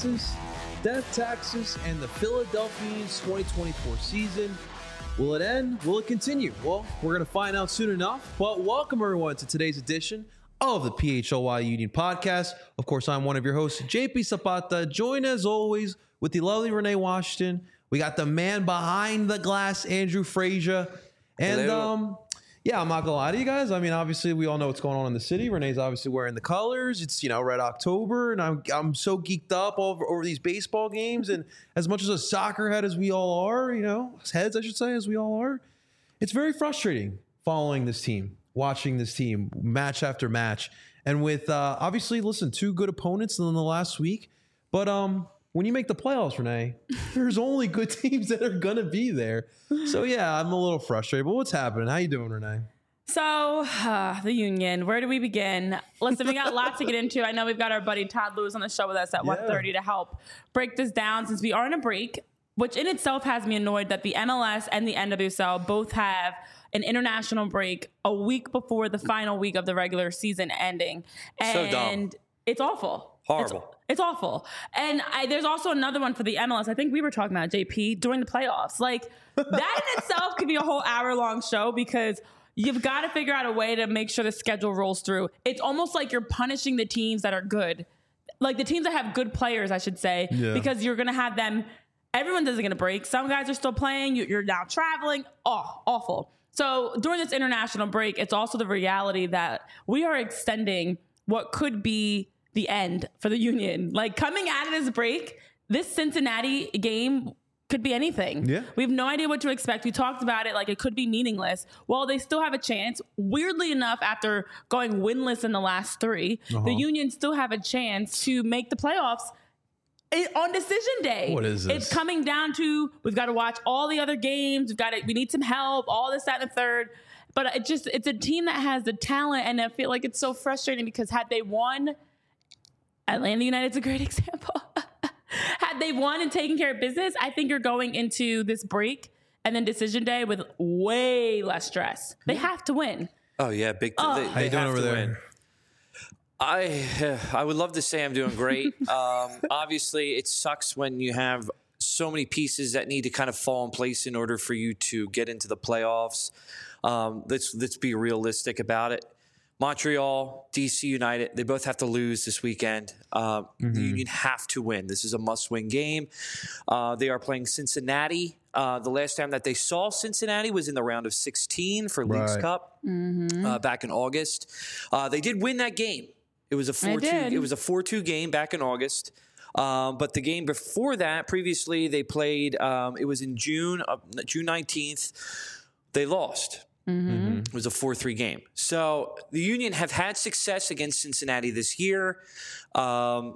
taxes, death taxes, and the Philadelphia Unions 2024 season. Will it end? Will it continue? Well, we're going to find out soon enough. But welcome, everyone, to today's edition of the PHLY Union Podcast. Of course, I'm one of your hosts, JP Zapata, joined as always with the lovely Renee Washington. We got the man behind the glass, Andrew Frazier. And yeah, I'm not gonna lie to you guys. I mean, obviously, we all know what's going on in the city. Renee's obviously wearing the colors. It's, Red October, and I'm so geeked up over these baseball games. And as much as a soccer head as we all are, heads, I should say, as we all are, it's very frustrating following this team, watching this team match after match. And with, obviously, two good opponents in the last week. But when you make the playoffs, Renee, there's only good teams that are going to be there. So, yeah, I'm a little frustrated. But what's happening? How you doing, Renee? So, the Union, where do we begin? Listen, we got a lot to get into. I know we've got our buddy Todd Lewis on the show with us at 1:30 to help break this down since we are in a break, which in itself has me annoyed that the MLS and the NWSL both have an international break a week before the final week of the regular season ending. And so dumb. It's awful. Horrible. It's awful. And there's also another one for the MLS. I think we were talking about JP during the playoffs. Like, that in itself could be a whole hour-long show because you've got to figure out a way to make sure the schedule rolls through. It's almost like you're punishing the teams that are good. Like, the teams that have good players, I should say, because you're going to have them. Everyone isn't going to break. Some guys are still playing. You're now traveling. Oh, awful. So during this international break, it's also the reality that we are extending what could be the end for the Union. Like, coming out of this break, this Cincinnati game could be anything. Yeah. We have no idea what to expect. We talked about it like it could be meaningless. Well, they still have a chance. Weirdly enough, after going winless in the last three, the Union still have a chance to make the playoffs on decision day. What is this? It's coming down to, we've got to watch all the other games. We need some help, all this, that, and the third. But it's a team that has the talent, and I feel like it's so frustrating because had they won, Atlanta United's a great example. Had they won and taken care of business, I think you're going into this break and then decision day with way less stress. They have to win. Oh, yeah. They How you have doing over to there? win. I would love to say I'm doing great. Obviously, it sucks when you have so many pieces that need to kind of fall in place in order for you to get into the playoffs. Let's be realistic about it. Montreal, DC United, they both have to lose this weekend. The Union have to win. This is a must-win game. They are playing Cincinnati. The last time that they saw Cincinnati was in the round of 16 for Leagues Cup back in August. They did win that game. It was a 4-2. It was a 4-2 game back in August. But the game before that, previously they played. It was in June 19th. They lost. It was a 4-3 game. So the Union have had success against Cincinnati this year. Can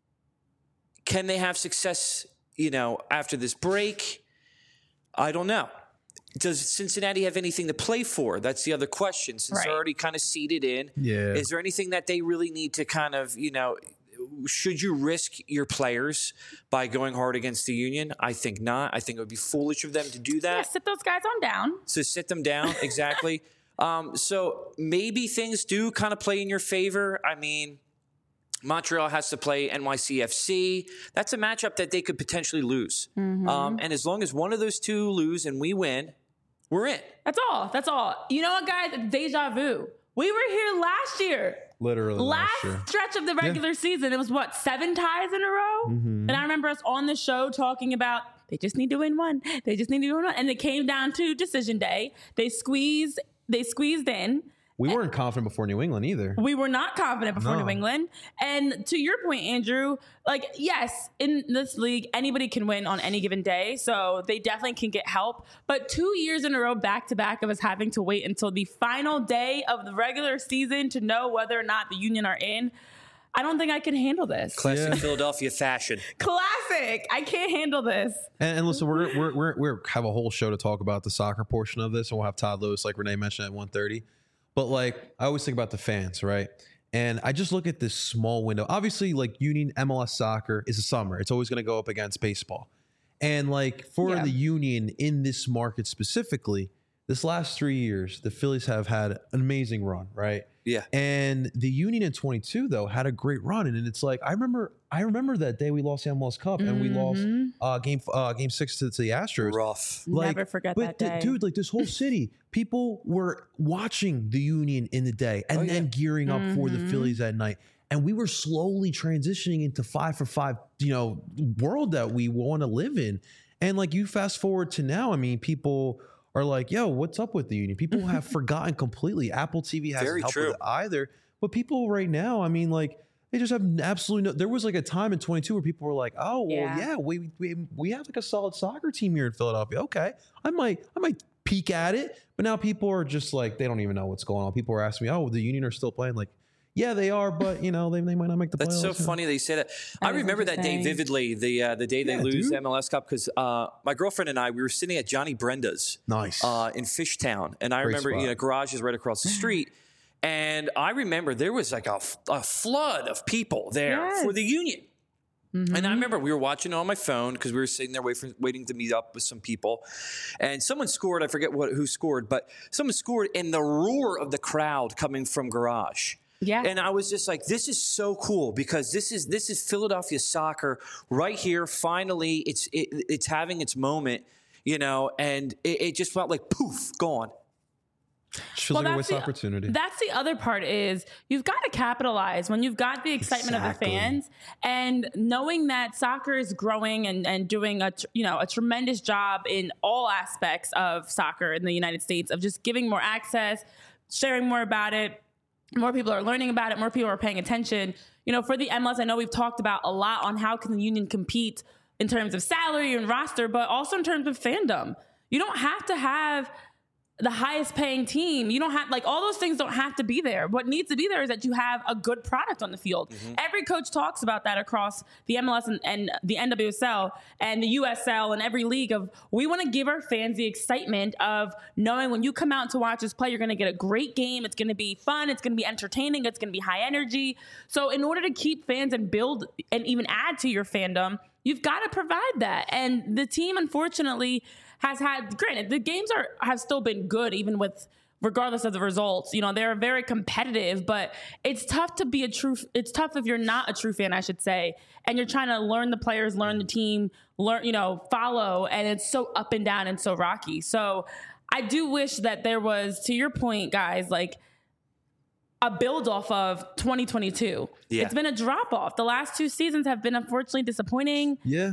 they have success, after this break? I don't know. Does Cincinnati have anything to play for? That's the other question. Since they're already kind of seeded in, is there anything that they really need to kind of, should you risk your players by going hard against the Union? I think not. I think it would be foolish of them to do that. Yeah, sit those guys on down. So sit them down, exactly. So maybe things do kind of play in your favor. I mean, Montreal has to play NYCFC. That's a matchup that they could potentially lose. And as long as one of those two lose and we win, we're in. That's all. That's all. You know what, guys? It's deja vu. We were here last year. Literally last year. Stretch of the regular season. It was 7 ties in a row? And I remember us on the show talking about they just need to win one. They just need to win one. And it came down to decision day. They squeezed in. We weren't confident before New England either. We were not confident before New England. And to your point, Andrew, yes, in this league, anybody can win on any given day. So they definitely can get help. But 2 years in a row, back to back, of us having to wait until the final day of the regular season to know whether or not the Union are in. I don't think I can handle this. Classic Philadelphia fashion. Classic. I can't handle this. And listen, we're have a whole show to talk about the soccer portion of this, and we'll have Todd Lewis, like Renee mentioned, at 1:30. But I always think about the fans, right? And I just look at this small window. Obviously, Union MLS soccer is a summer. It's always going to go up against baseball. And for the Union in this market specifically, this last 3 years, the Phillies have had an amazing run, right? Yeah. And the Union in 22, though, had a great run. And it's I remember I remember that day we lost the MLS Cup and we lost game 6 to the Astros. Rough. Never forget that day. Dude, like this whole city, people were watching the Union in the day and then gearing up for the Phillies at night. And we were slowly transitioning into 5-for-5, world that we want to live in. And like you fast forward to now, I mean, people are like, yo, what's up with the Union? People have forgotten completely. Apple TV hasn't helped with it either. But people right now, I mean, like, they just have absolutely no. There was like a time in 22 where people were like, "Oh, well, yeah, we have like a solid soccer team here in Philadelphia. Okay, I might peek at it." But now people are just like, they don't even know what's going on. People are asking me, "Oh, the Union are still playing?" Like, yeah, they are, but they might not make the playoffs. That's so funny that you say that. I remember that day vividly. The day they lose the MLS Cup because my girlfriend and I we were sitting at Johnny Brenda's, nice, in Fishtown, and I remember garage is right across the street. And I remember there was like a flood of people there for the Union. And I remember we were watching it on my phone because we were sitting there waiting to meet up with some people. And someone scored. I forget who scored, but someone scored in the roar of the crowd coming from garage. Yeah. And I was just like, this is so cool because this is Philadelphia soccer right here. Finally, it's having its moment, and it just felt like poof, gone. Feels like a waste opportunity. That's the other part is you've got to capitalize when you've got the excitement of the fans and knowing that soccer is growing and doing a tremendous job in all aspects of soccer in the United States of just giving more access, sharing more about it. More people are learning about it. More people are paying attention. For the MLS, I know we've talked about a lot on how can the Union compete in terms of salary and roster, but also in terms of fandom. You don't have to have the highest paying team. You don't have all those things don't have to be there. What needs to be there is that you have a good product on the field. Every coach talks about that across the MLS and the NWSL and the USL and every league of we want to give our fans the excitement of knowing when you come out to watch us play, you're going to get a great game. It's going to be fun. It's going to be entertaining. It's going to be high energy. So in order to keep fans and build and even add to your fandom, you've got to provide that. And the team, unfortunately, has had, granted, the games have still been good, even regardless of the results. They're very competitive, but it's tough it's tough if you're not a true fan, I should say, and you're trying to learn the players, learn the team, follow, and it's so up and down and so rocky. So I do wish that there was, to your point, guys, a build off of 2022. Yeah. It's been a drop off. The last 2 seasons have been unfortunately disappointing. Yeah.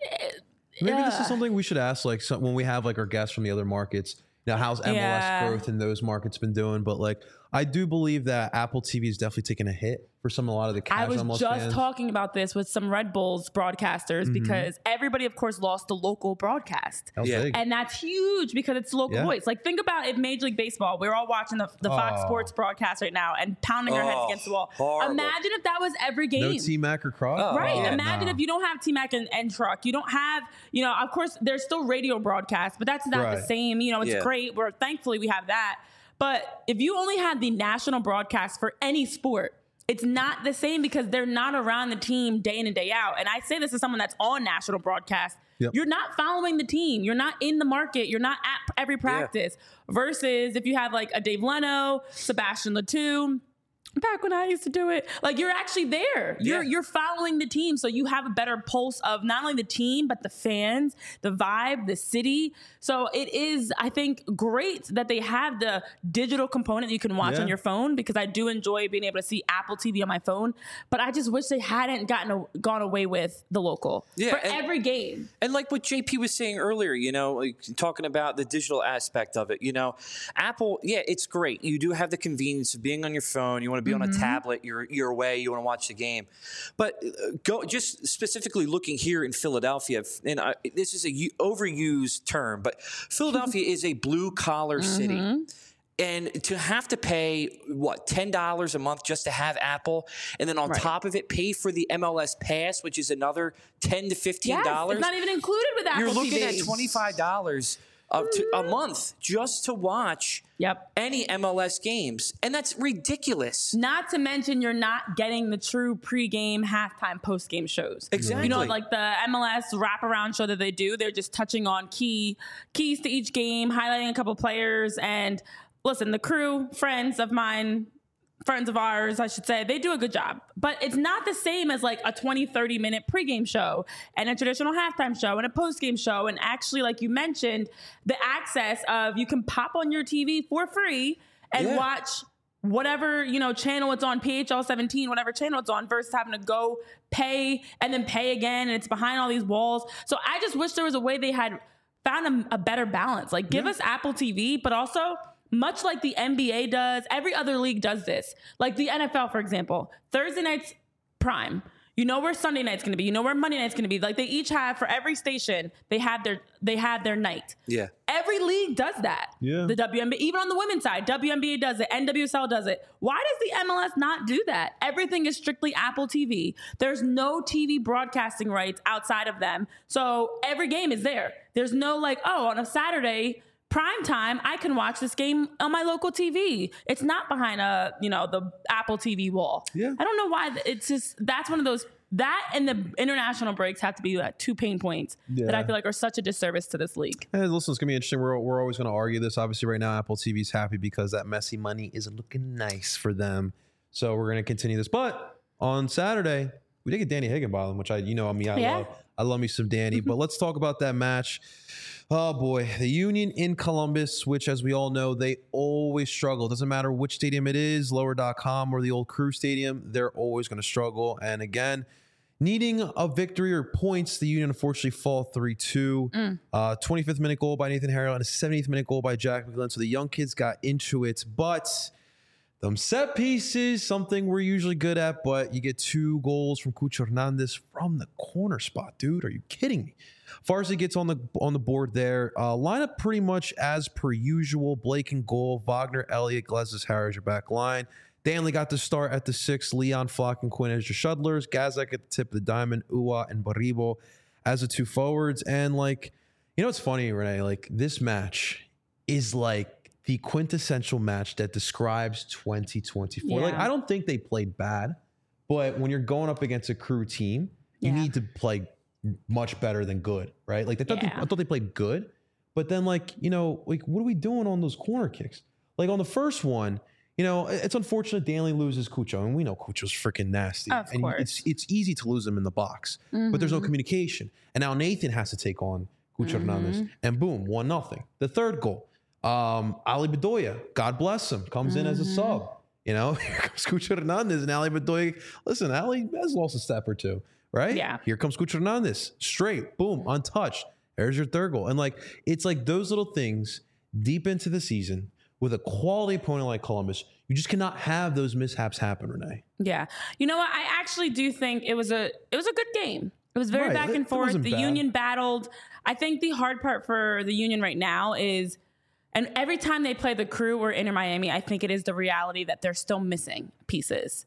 Maybe this is something we should ask, when we have our guests from the other markets. How's MLS growth in those markets been doing? But I do believe that Apple TV is definitely taking a hit for a lot of the casual MLS fans. I was just talking about this with some Red Bulls broadcasters because everybody, of course, lost the local broadcast. And that's huge because it's local voice. Think about if Major League Baseball, we're all watching the Fox Sports broadcast right now and pounding our heads against the wall. Horrible. Imagine if that was every game. No T-Mac or Croc? Right. Imagine if you don't have T-Mac and Truck. You don't have, of course, there's still radio broadcasts, but that's not the same. It's great. Thankfully, we have that. But if you only had the national broadcast for any sport, it's not the same because they're not around the team day in and day out. And I say this as someone that's on national broadcast. Yep. You're not following the team. You're not in the market. You're not at every practice. Versus if you have a Dave Leno, Sebastian Letou, back when I used to do it, you're actually there. You're following the team. So you have a better pulse of not only the team, but the fans, the vibe, the city. So it is, I think, great that they have the digital component you can watch on your phone because I do enjoy being able to see Apple TV on my phone. But I just wish they hadn't gone away with the local for every game. And what JP was saying earlier, talking about the digital aspect of it, Apple, it's great. You do have the convenience of being on your phone. You want to be on a tablet, you're away, you want to watch the game. But just specifically looking here in Philadelphia, and this is a overused term, but Philadelphia is a blue-collar city. And to have to pay, $10 a month just to have Apple, and then on top of it, pay for the MLS Pass, which is another $10 to $15. Yes, it's not even included with Apple You're looking TV. at $25 a month just to watch any MLS games. And that's ridiculous. Not to mention you're not getting the true pregame, halftime, postgame shows. Exactly. The MLS wraparound show that they do, they're just touching on keys to each game, highlighting a couple players. And listen, the crew, friends of mine, friends of ours, I should say, they do a good job. But it's not the same as like a 20, 30-minute pregame show and a traditional halftime show and a postgame show. And actually, like you mentioned, the access of you can pop on your TV for free and watch whatever, channel it's on, PHL 17, whatever channel it's on, versus having to go pay and then pay again. And it's behind all these walls. So I just wish there was a way they had found a better balance. Like give us Apple TV, but also much like the NBA does, every other league does this. Like the NFL, for example, Thursday night's prime. You know where Sunday night's going to be. You know where Monday night's going to be. Like they each have, for every station, they have their night. Yeah. Every league does that. Yeah. The WNBA, even on the women's side, WNBA does it. NWSL does it. Why does the MLS not do that? Everything is strictly Apple TV. There's no TV broadcasting rights outside of them. So every game is there. There's no like, on a Saturday prime time, I can watch this game on my local TV. It's not behind the Apple TV wall. Yeah. I don't know why. It's just, that's one of those, that and the international breaks have to be like two pain points that I feel like are such a disservice to this league. Hey, listen, it's going to be interesting. We're always going to argue this. Obviously, right now, Apple TV's happy because that messy money isn't looking nice for them. So we're going to continue this. But on Saturday, we did get Danny Higginbotham, which I love me some Danny. But let's talk about that match. Oh, boy. The Union in Columbus, which, as we all know, they always struggle. It doesn't matter which stadium it is, Lower.com or the old Crew Stadium, they're always going to struggle. And again, needing a victory or points, the Union unfortunately fall 3-2. 25th minute goal by Nathan Harrell and a 70th minute goal by Jack McGlynn. So the young kids got into it. But them set pieces, something we're usually good at, but you get 2 goals from Cucho Hernandez from the corner spot. Dude, are you kidding me? Farsi gets on the board there. Lineup pretty much as per usual. Blake in goal. Wagner, Elliott, Glezis, Harris, your back line. Danley got to start at the 6. Leon, Flock, and Quinn as your shuttlers. Gazak at the tip of the diamond. Uwa and Baribo as the 2 forwards. And it's funny, Renee, like this match is like the quintessential match that describes 2024. Yeah. Like I don't think they played bad, but when you're going up against a Crew team, you need to play much better than good, right? Like I thought they played good, but then what are we doing on those corner kicks? Like on the first one, it's unfortunate Danley loses Cucho, and we know Cucho's freaking nasty. Of course. It's easy to lose him in the box, but there's no communication. And now Nathan has to take on Cucho Hernandez, and boom, 1-0. The third goal, Ali Bedoya, God bless him, comes in as a sub. Here comes Cucho Hernandez, and Ali Bedoya. Listen, Ali has lost a step or two. Right? Yeah. Here comes Cucho Hernandez. Straight. Boom. Untouched. There's your third goal. And it's like those little things deep into the season with a quality opponent like Columbus, you just cannot have those mishaps happen, Renee. Yeah. You know what? I actually do think it was a good game. It was very back and forth. The Union battled. I think the hard part for the Union right now is, and every time they play the Crew or Inter Miami, I think it is the reality that they're still missing pieces.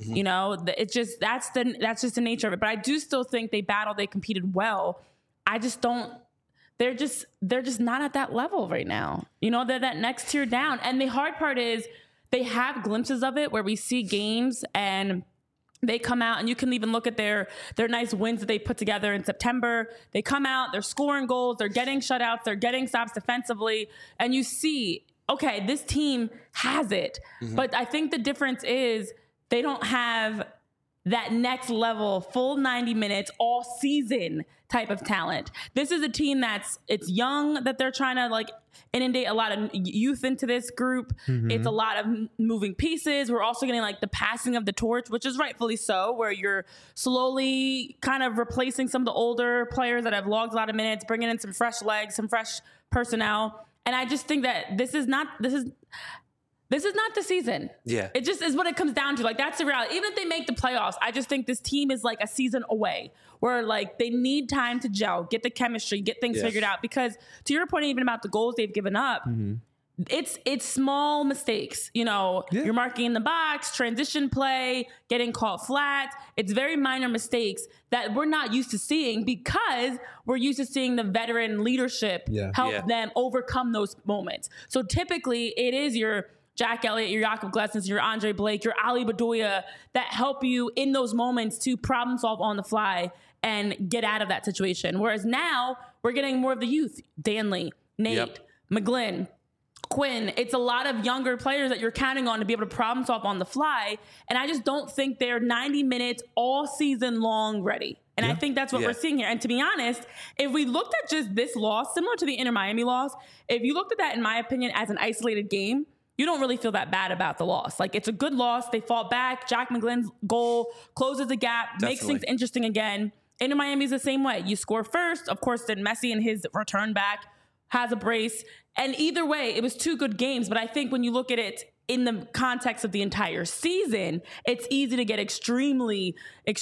It's just that's just the nature of it. But I do still think they battled, they competed well. I just don't. They're just not at that level right now. They're that next tier down. And the hard part is they have glimpses of it where we see games and they come out, and you can even look at their nice wins that they put together in September. They come out, they're scoring goals, they're getting shutouts, they're getting stops defensively, and you see, okay, this team has it. But I think the difference is they don't have that next level, full 90 minutes, all season type of talent. This is a team it's young, that they're trying to inundate a lot of youth into this group. It's a lot of moving pieces. We're also getting the passing of the torch, which is rightfully so, where you're slowly kind of replacing some of the older players that have logged a lot of minutes, bringing in some fresh legs, some fresh personnel. And I just think that this is not the season. Yeah. It just is what it comes down to. That's the reality. Even if they make the playoffs, I just think this team is a season away, where they need time to gel, get the chemistry, get things figured out. Because to your point, even about the goals they've given up, it's small mistakes. You're marking in the box, transition play, getting caught flat. It's very minor mistakes that we're not used to seeing, because we're used to seeing the veteran leadership help them overcome those moments. So typically it is your Jack Elliott, your Jakob Glesnes, your Andre Blake, your Ali Bedoya that help you in those moments to problem solve on the fly and get out of that situation. Whereas now we're getting more of the youth. Danley, Nate, McGlynn, Quinn, it's a lot of younger players that you're counting on to be able to problem solve on the fly. And I just don't think they're 90 minutes all season long ready. And I think that's what we're seeing here. And to be honest, if we looked at just this loss, similar to the Inter Miami loss, if you looked at that, in my opinion, as an isolated game, you don't really feel that bad about the loss. Like, it's a good loss. They fought back. Jack McGlynn's goal closes the gap, makes things interesting again. Inter Miami's the same way. You score first. Of course, then Messi in his return back has a brace. And either way, it was two good games. But I think when you look at it in the context of the entire season, it's easy to get extremely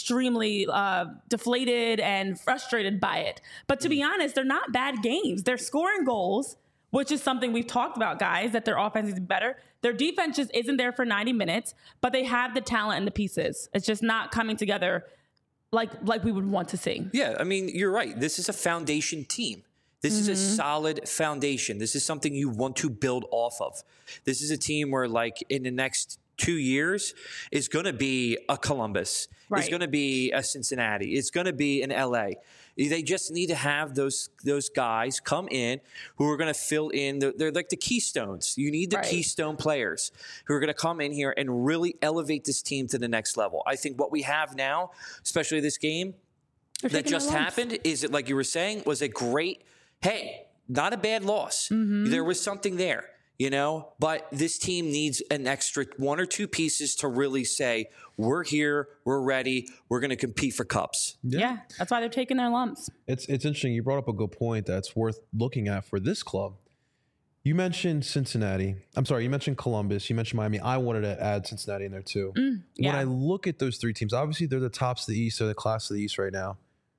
deflated and frustrated by it. But to be honest, they're not bad games. They're scoring goals, which is something we've talked about, guys, that their offense is better. Their defense just isn't there for 90 minutes, but they have the talent and the pieces. It's just not coming together like we would want to see. Yeah, I mean, you're right. This is a foundation team. This is a solid foundation. This is something you want to build off of. This is a team where, like, in the next 2 years is going to be a Columbus. Right. It's going to be a Cincinnati. It's going to be an LA. They just need to have those guys come in who are going to fill in. They're like the keystones. You need the keystone players who are going to come in here and really elevate this team to the next level. I think what we have now, especially this game that just happened, is it, like you were saying, was a great, hey, not a bad loss. There was something there. You know, but this team needs an extra one or two pieces to really say, we're here, we're ready, we're going to compete for cups. Yeah, that's why they're taking their lumps. It's interesting. You brought up a good point that's worth looking at for this club. You mentioned Cincinnati. I'm sorry, you mentioned Columbus. You mentioned Miami. I wanted to add Cincinnati in there too. When I look at those three teams, obviously they're the tops of the East. They're the class of the East right now.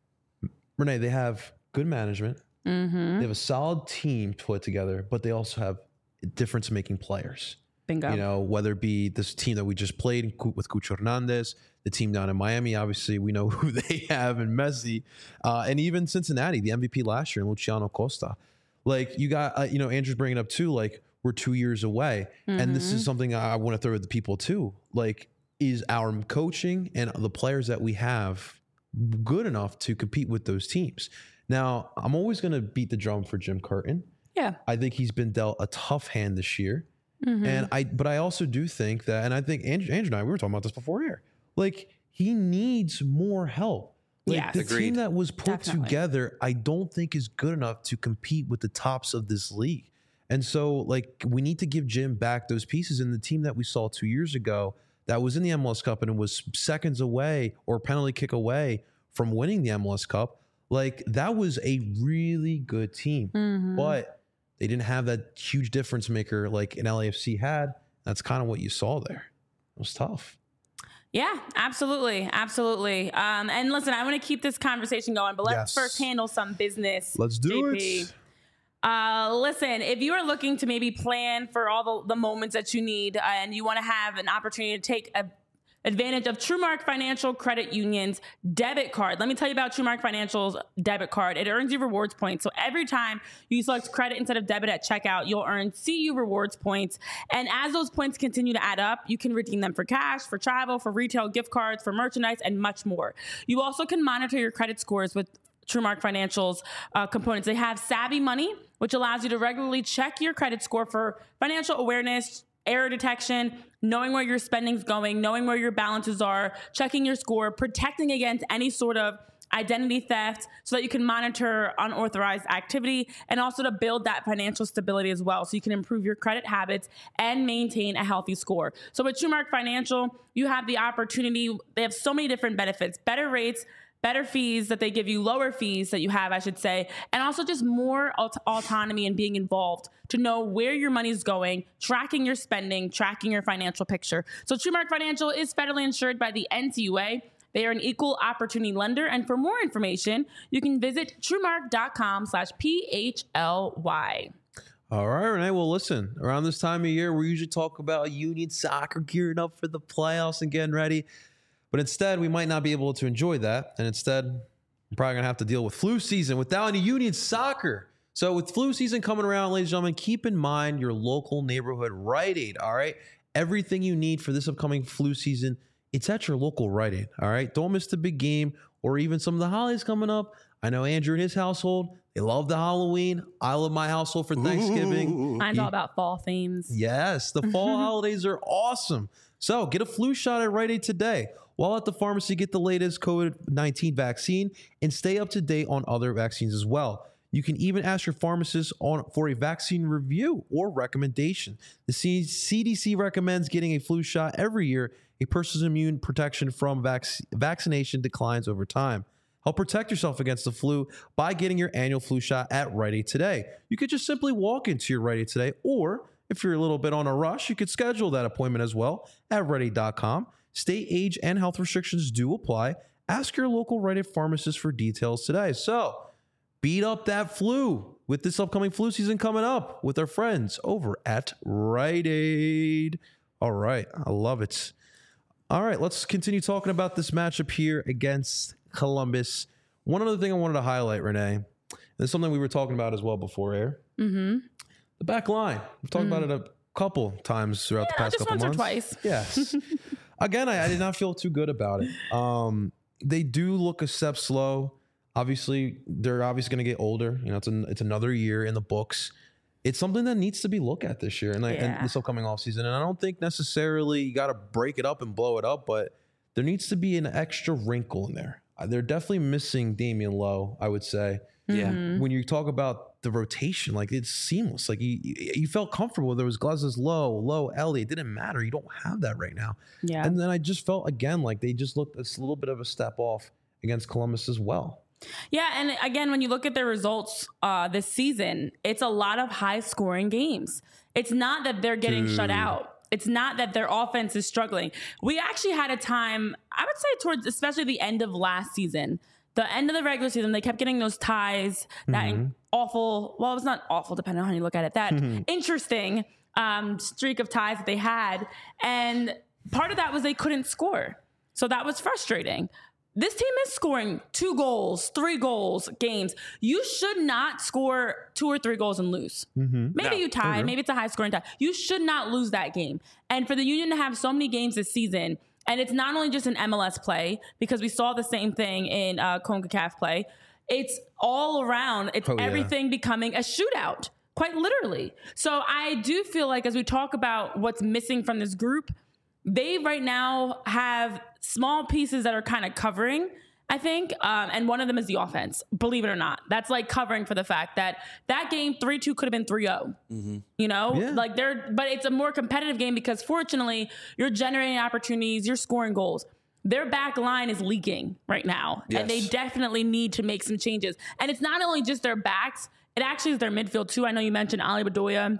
Renee, they have good management. They have a solid team put together, but they also have difference-making players. Bingo. You know, whether it be this team that we just played with Cucho Hernandez, the team down in Miami, obviously we know who they have in Messi, and even Cincinnati, the MVP last year, and Luciano Costa. Like, you got, Andrew's bringing up too, like, we're 2 years away. And this is something I want to throw at the people too. Like, is our coaching and the players that we have good enough to compete with those teams? Now, I'm always going to beat the drum for Jim Curtin. Yeah, I think he's been dealt a tough hand this year. But I also do think that, and I think Andrew and I, we were talking about this before here, like, he needs more help. Like, the team that was put together, I don't think is good enough to compete with the tops of this league. And so, like, we need to give Jim back those pieces. And the team that we saw 2 years ago that was in the MLS Cup and was seconds away or penalty kick away from winning the MLS Cup, like, that was a really good team. But they didn't have that huge difference maker like an LAFC had. That's kind of what you saw there. It was tough. Yeah, absolutely. Absolutely. And listen, I want to keep this conversation going, but let's first handle some business. Let's do JP. it. Listen, if you are looking to maybe plan for all the moments that you need and you want to have an opportunity to take advantage of TrueMark Financial Credit Union's debit card. Let me tell you about TrueMark Financial's debit card. It earns you rewards points. So every time you select credit instead of debit at checkout, you'll earn CU rewards points. And as those points continue to add up, you can redeem them for cash, for travel, for retail gift cards, for merchandise, and much more. You also can monitor your credit scores with TrueMark Financial's components. They have Savvy Money, which allows you to regularly check your credit score for financial awareness, error detection, knowing where your spending's going, knowing where your balances are, checking your score, protecting against any sort of identity theft so that you can monitor unauthorized activity, and also to build that financial stability as well so you can improve your credit habits and maintain a healthy score. So with TrueMark Financial, you have the opportunity. They have so many different benefits, better rates, better fees that they give you, lower fees that you have, I should say, and also just more autonomy and being involved to know where your money is going, tracking your spending, tracking your financial picture. So TrueMark Financial is federally insured by the NCUA. They are an equal opportunity lender. And for more information, you can visit truemark.com/PHLY. All right, Renee. Well, listen, around this time of year, we usually talk about Union Soccer gearing up for the playoffs and getting ready. But instead, we might not be able to enjoy that. And instead, we're probably going to have to deal with flu season without any Union Soccer. So with flu season coming around, ladies and gentlemen, keep in mind your local neighborhood Rite Aid, all right? Everything you need for this upcoming flu season, it's at your local Rite Aid, all right? Don't miss the big game or even some of the holidays coming up. I know Andrew and his household, They love the Halloween. I love my household for Thanksgiving. Mine's all about fall themes. Yes, the fall holidays are awesome. So get a flu shot at Rite Aid today. While at the pharmacy, get the latest COVID-19 vaccine and stay up to date on other vaccines as well. You can even ask your pharmacist for a vaccine review or recommendation. The CDC recommends getting a flu shot every year. A person's immune protection from vaccination declines over time. Help protect yourself against the flu by getting your annual flu shot at Rite Aid today. You could just simply walk into your Rite Aid today, or if you're a little bit on a rush, you could schedule that appointment as well at RiteAid.com. State, age, and health restrictions do apply. Ask your local Rite Aid pharmacist for details today. So, beat up that flu with this upcoming flu season coming up with our friends over at Rite Aid. All right, I love it. All right, let's continue talking about this matchup here against Columbus. One other thing I wanted to highlight, Renee, and it's something we were talking about as well before air. The back line. We've talked about it a couple times throughout the past couple months. Once or twice. Yes. Again, I did not feel too good about it. They do look a step slow. Obviously, they're obviously going to get older. You know, it's another year in the books. It's something that needs to be looked at this year and this upcoming offseason. And I don't think necessarily you got to break it up and blow it up, but there needs to be an extra wrinkle in there. They're definitely missing Damian Lowe, I would say. Yeah. When you talk about the rotation, like it's seamless. Like you felt comfortable. There was Glaz's Lowe, Ellie. It didn't matter. You don't have that right now. Yeah. And then I just felt again like they just looked a little bit of a step off against Columbus as well. Yeah, and again, when you look at their results this season, it's a lot of high-scoring games. It's not that they're getting shut out. It's not that their offense is struggling. We actually had a time, I would say towards especially the end of last season, the end of the regular season, they kept getting those ties, that awful, well, it's not awful depending on how you look at it, that interesting streak of ties that they had. And part of that was they couldn't score. So that was frustrating. This team is scoring 2 goals, 3 goals games. You should not score 2 or 3 goals and lose. Maybe you tie. Maybe it's a high scoring tie. You should not lose that game. And for the Union to have so many games this season, and it's not only just an MLS play, because we saw the same thing in CONCACAF play. It's all around. It's everything becoming a shootout, quite literally. So I do feel like as we talk about what's missing from this group, they right now have small pieces that are kind of covering, I think. And one of them is the offense, believe it or not. That's like covering for the fact that game 3-2 could have been 3-0, you know, but it's a more competitive game because fortunately you're generating opportunities, you're scoring goals. Their back line is leaking right now and they definitely need to make some changes. And it's not only just their backs, it actually is their midfield too. I know you mentioned Ali Bedoya.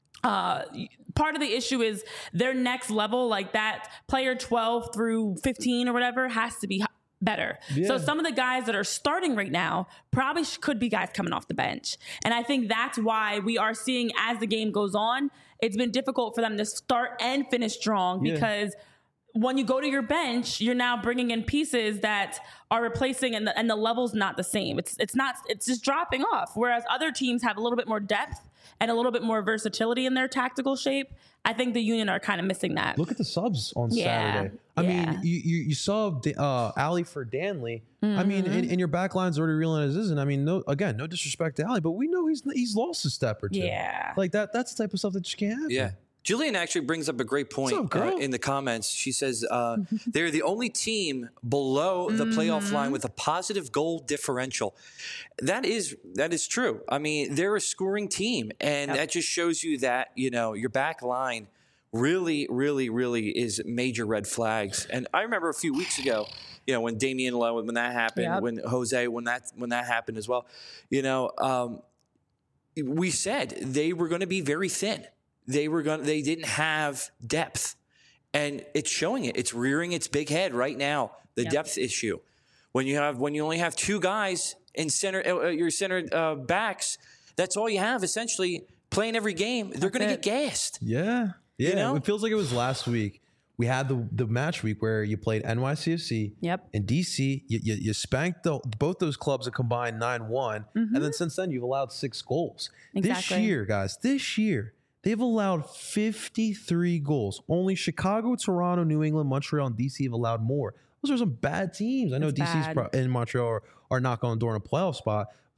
Part of the issue is their next level, like that player 12 through 15 or whatever, has to be better. So some of the guys that are starting right now probably could be guys coming off the bench. And I think that's why we are seeing as the game goes on, it's been difficult for them to start and finish strong because when you go to your bench, you're now bringing in pieces that are replacing and the level's not the same. It's just dropping off. Whereas other teams have a little bit more depth and a little bit more versatility in their tactical shape. I think the Union are kind of missing that. Look at the subs on Saturday. I mean, you saw Ali for Danley. I mean, and your back line's already reeling as isn't. I mean, no disrespect to Ali, but we know he's lost a step or two. Yeah. Like that's the type of stuff that just can't happen. Yeah. Julian actually brings up a great point in the comments. She says they're the only team below the playoff line with a positive goal differential. That is true. I mean, they're a scoring team, and that just shows you that, you know, your back line really, really, really is major red flags. And I remember a few weeks ago, you know, when Damian Lowe, when that happened, when Jose, when that happened as well, you know, we said they were going to be very thin. They didn't have depth, and it's showing it. It's rearing its big head right now. The depth issue. When you only have 2 guys in center, your center backs, that's all you have essentially playing every game. They're going to get gassed. Yeah. You know? It feels like it was last week. We had the match week where you played NYCFC and DC. You spanked both those clubs a combined 9-1, and then since then you've allowed 6 goals. This year, guys, they've allowed 53 goals. Only Chicago, Toronto, New England, Montreal, and DC have allowed more. Those are some bad teams. I know DC's and Montreal are knocking on the door in a playoff spot.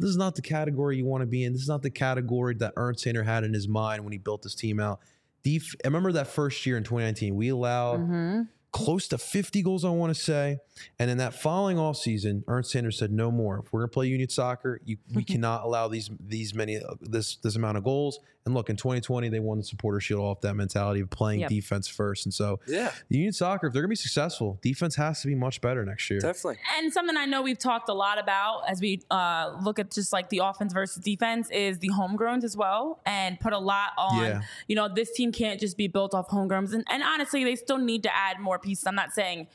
this is not the category you want to be in. This is not the category that Ernst Sander had in his mind when he built this team out. I remember that first year in 2019, we allowed close to 50 goals, I want to say. And in that following off season, Ernst Sander said, no more. If we're going to play union soccer, we cannot allow this amount of goals. And look, in 2020, they won the Supporter Shield off that mentality of playing defense first. And so union soccer, if they're going to be successful, defense has to be much better next year. Definitely. And something I know we've talked a lot about as we look at just like the offense versus defense is the homegrowns as well, and put a lot on, this team can't just be built off homegrowns. And honestly, they still need to add more pieces. I'm not saying,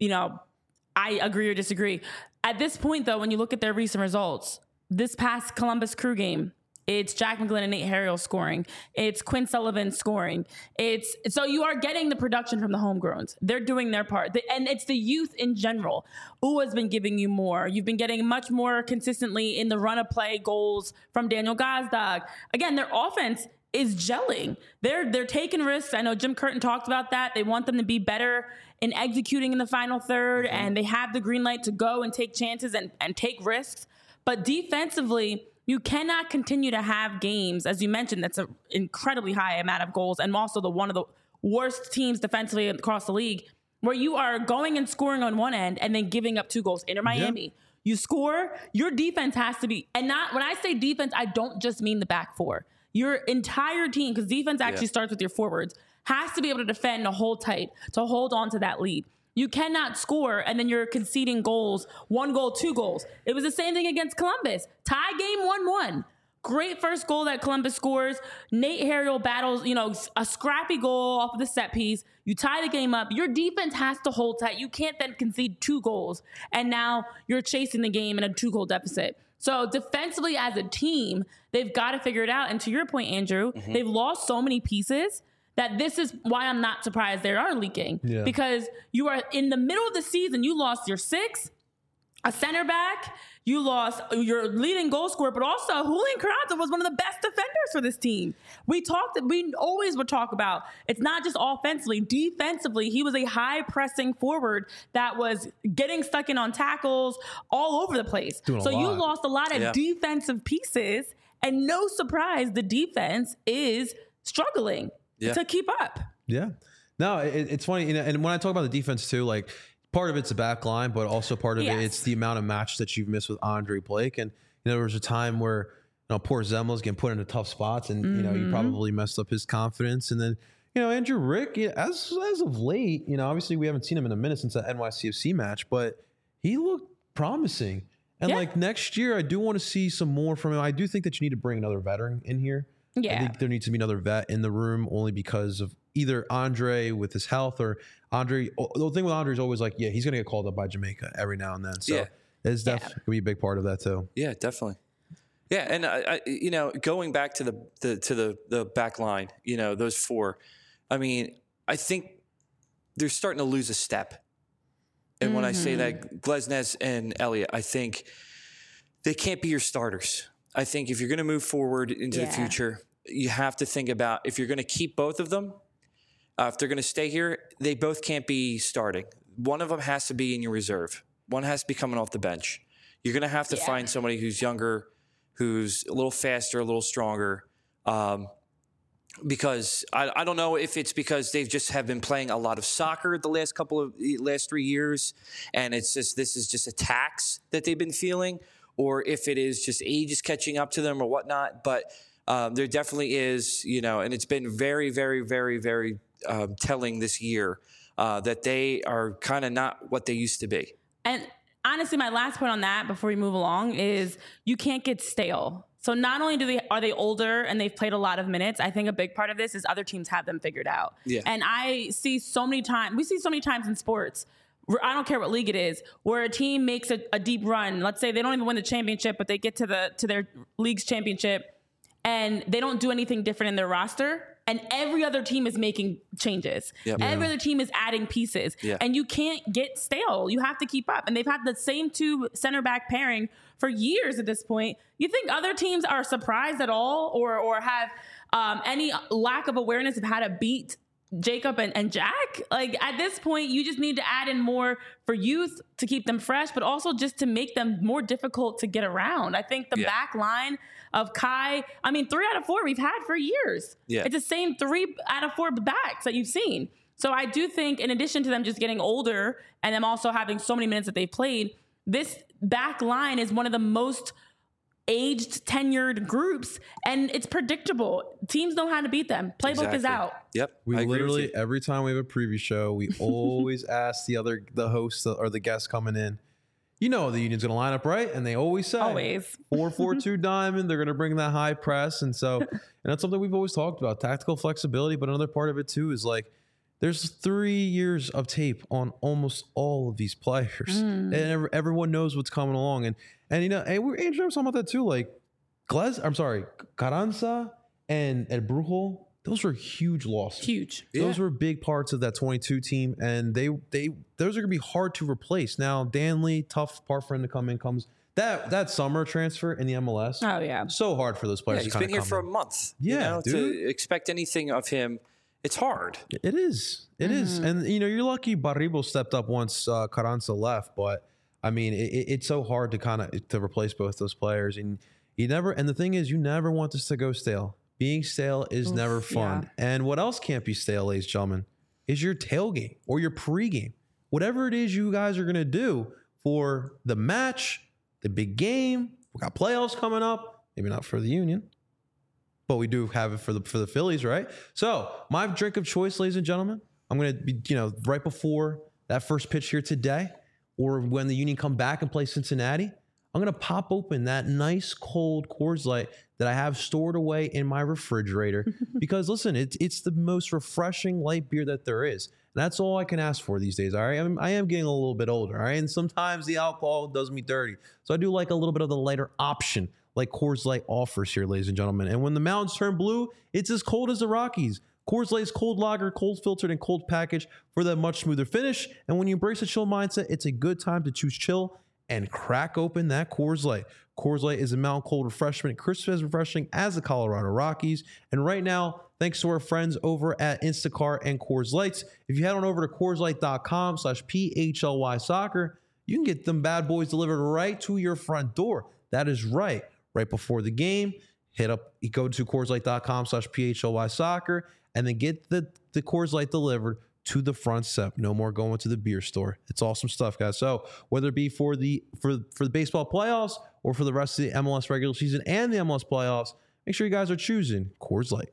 I agree or disagree. At this point, though, when you look at their recent results, this past Columbus Crew game, it's Jack McGlynn and Nate Harriel scoring. It's Quinn Sullivan scoring. So you are getting the production from the homegrowns. They're doing their part. And it's the youth in general. UWA's been giving you more. You've been getting much more consistently in the run of play goals from Daniel Gazdag. Again, their offense is gelling. They're taking risks. I know Jim Curtin talked about that. They want them to be better in executing in the final third, and they have the green light to go and take chances and take risks. But defensively, you cannot continue to have games, as you mentioned, that's an incredibly high amount of goals, and also one of the worst teams defensively across the league, where you are going and scoring on one end and then giving up 2 goals. Inter Miami, you score, your defense has to be, and not when I say defense, I don't just mean the back four. Your entire team, because defense actually starts with your forwards, has to be able to defend to hold tight, to hold on to that lead. You cannot score and then you're conceding goals, 1 goal, 2 goals. It was the same thing against Columbus. Tie game 1-1. Great first goal that Columbus scores. Nate Harriel battles, a scrappy goal off of the set piece. You tie the game up. Your defense has to hold tight. You can't then concede 2 goals. And now you're chasing the game in a 2-goal deficit. So defensively as a team, they've got to figure it out. And to your point, Andrew, they've lost so many pieces that this is why I'm not surprised they are leaking. Yeah. Because you are in the middle of the season, you lost your 6, a center back, you lost your leading goal scorer, but also Julian Carranza was one of the best defenders for this team. We always would talk about, it's not just offensively, defensively, he was a high pressing forward that was getting stuck in on tackles all over the place. So you lost a lot of defensive pieces, and no surprise, the defense is struggling to keep up. Yeah. No, it's funny. And when I talk about the defense too, like part of it's the back line, but also part of it's the amount of match that you've missed with Andre Blake. And there was a time where poor Zemla's getting put into tough spots, and you probably messed up his confidence. And then Andrew Rick, as of late, obviously we haven't seen him in a minute since that NYCFC match, but he looked promising. And like next year, I do want to see some more from him. I do think that you need to bring another veteran in here. Yeah. I think there needs to be another vet in the room, only because of either Andre with his health or Andre. The thing with Andre is always like, he's going to get called up by Jamaica every now and then. So it's definitely going to be a big part of that too. Yeah, definitely. Yeah. And I going back to the back line, those 4, I mean, I think they're starting to lose a step. And when I say that, Glesnes and Elliott, I think they can't be your starters. I think if you're going to move forward into the future, you have to think about, if you're going to keep both of them, if they're going to stay here, they both can't be starting. One of them has to be in your reserve. One has to be coming off the bench. You're going to have to find somebody who's younger, who's a little faster, a little stronger. Because I don't know if it's because they've just have been playing a lot of soccer the last 3 years, and this is just a tax that they've been feeling, or if it is just age is catching up to them or whatnot. But there definitely is, and it's been very, very, very, very telling this year that they are kind of not what they used to be. And honestly, my last point on that before we move along is you can't get stale. So not only are they older and they've played a lot of minutes, I think a big part of this is other teams have them figured out. Yeah. And we see so many times in sports, I don't care what league it is, where a team makes a deep run. Let's say they don't even win the championship, but they get to their league's championship, and they don't do anything different in their roster. And every other team is making changes. Yep. Every other team is adding pieces. Yeah. And you can't get stale. You have to keep up. And they've had the same 2 center back pairing for years at this point. You think other teams are surprised at all or have any lack of awareness of how to beat Jacob and Jack. Like at this point, you just need to add in more for youth to keep them fresh, but also just to make them more difficult to get around. I think the back line of Kai, 3 out of 4 we've had for years. Yeah. It's the same 3 out of 4 backs that you've seen. So I do think in addition to them just getting older and them also having so many minutes that they've played, this back line is one of the most aged, tenured groups, and it's predictable. Teams know how to beat them. Playbook is out. Yep. We literally, every time we have a preview show, we always ask the host or the guest coming in, the Union's going to line up right, and they always say 4-4-2 diamond. They're going to bring that high press, and that's something we've always talked about, tactical flexibility. But another part of it too is like there's 3 years of tape on almost all of these players, and everyone knows what's coming along. And Andrew was talking about that too. Like Carranza and Brujol, those were huge losses. Huge. Those were big parts of that 22 team, and those are going to be hard to replace. Now, Danley, tough part for him to come in. Comes that summer transfer in the MLS. Oh yeah, so hard for those players. He's been here for a month. Yeah, to expect anything of him, it's hard. It is. It is. And you're lucky Barribo stepped up once Carranza left, but it's so hard to replace both those players, and the thing is, you never want this to go stale. Being stale is never fun. Yeah. And what else can't be stale, ladies and gentlemen, is your tailgate or your pregame. Whatever it is you guys are going to do for the match, the big game. We got playoffs coming up. Maybe not for the Union, but we do have it for the Phillies, right? So my drink of choice, ladies and gentlemen, I'm going to be, right before that first pitch here today, or when the Union come back and play Cincinnati, I'm going to pop open that nice cold Coors Light that I have stored away in my refrigerator because, listen, it's the most refreshing light beer that there is. And that's all I can ask for these days, all right? I am getting a little bit older, all right? And sometimes the alcohol does me dirty. So I do like a little bit of the lighter option like Coors Light offers here, ladies and gentlemen. And when the mountains turn blue, it's as cold as the Rockies. Coors Light's cold lager, cold filtered, and cold package for that much smoother finish. And when you embrace a chill mindset, it's a good time to choose chill and crack open that Coors Light. Coors Light is a mountain cold refreshment, crisp as refreshing as the Colorado Rockies. And right now, thanks to our friends over at Instacart and Coors Lights, if you head on over to CoorsLight.com/PHLY soccer, you can get them bad boys delivered right to your front door. That is right before the game. You go to CoorsLight.com/PHLY soccer and then get the Coors Light delivered to the front step. No more going to the beer store. It's awesome stuff, guys. So whether it be for the baseball playoffs or for the rest of the MLS regular season and the MLS playoffs, make sure you guys are choosing Coors Light.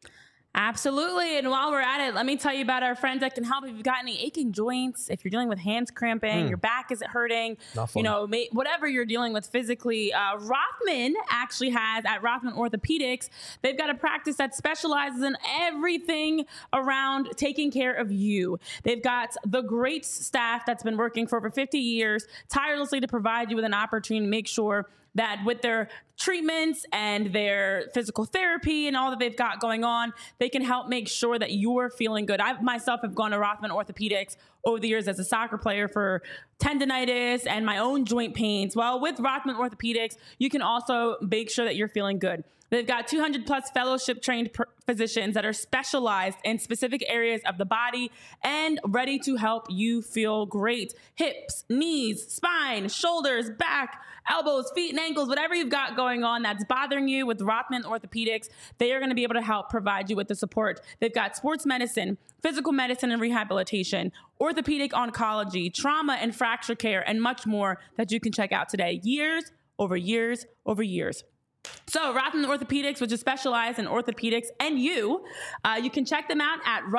Absolutely. And while we're at it, let me tell you about our friends that can help if you've got any aching joints, if you're dealing with hands cramping, your back is hurting, whatever you're dealing with physically. Rothman actually has, at Rothman Orthopedics, they've got a practice that specializes in everything around taking care of you. They've got the great staff that's been working for over 50 years, tirelessly to provide you with an opportunity to make sure that with their treatments and their physical therapy and all that they've got going on, they can help make sure that you're feeling good. I myself have gone to Rothman Orthopedics over the years as a soccer player for tendonitis and my own joint pains. Well, with Rothman Orthopedics, you can also make sure that you're feeling good. They've got 200 plus fellowship trained physicians that are specialized in specific areas of the body and ready to help you feel great. Hips, knees, spine, shoulders, back, elbows, feet, and ankles, whatever you've got going on that's bothering you with Rothman Orthopedics, they are going to be able to help provide you with the support. They've got sports medicine, physical medicine and rehabilitation, orthopedic oncology, trauma and fracture care, and much more that you can check out today. Years over years over years. So Rothman Orthopedics, which is specialized in orthopedics and you can check them out at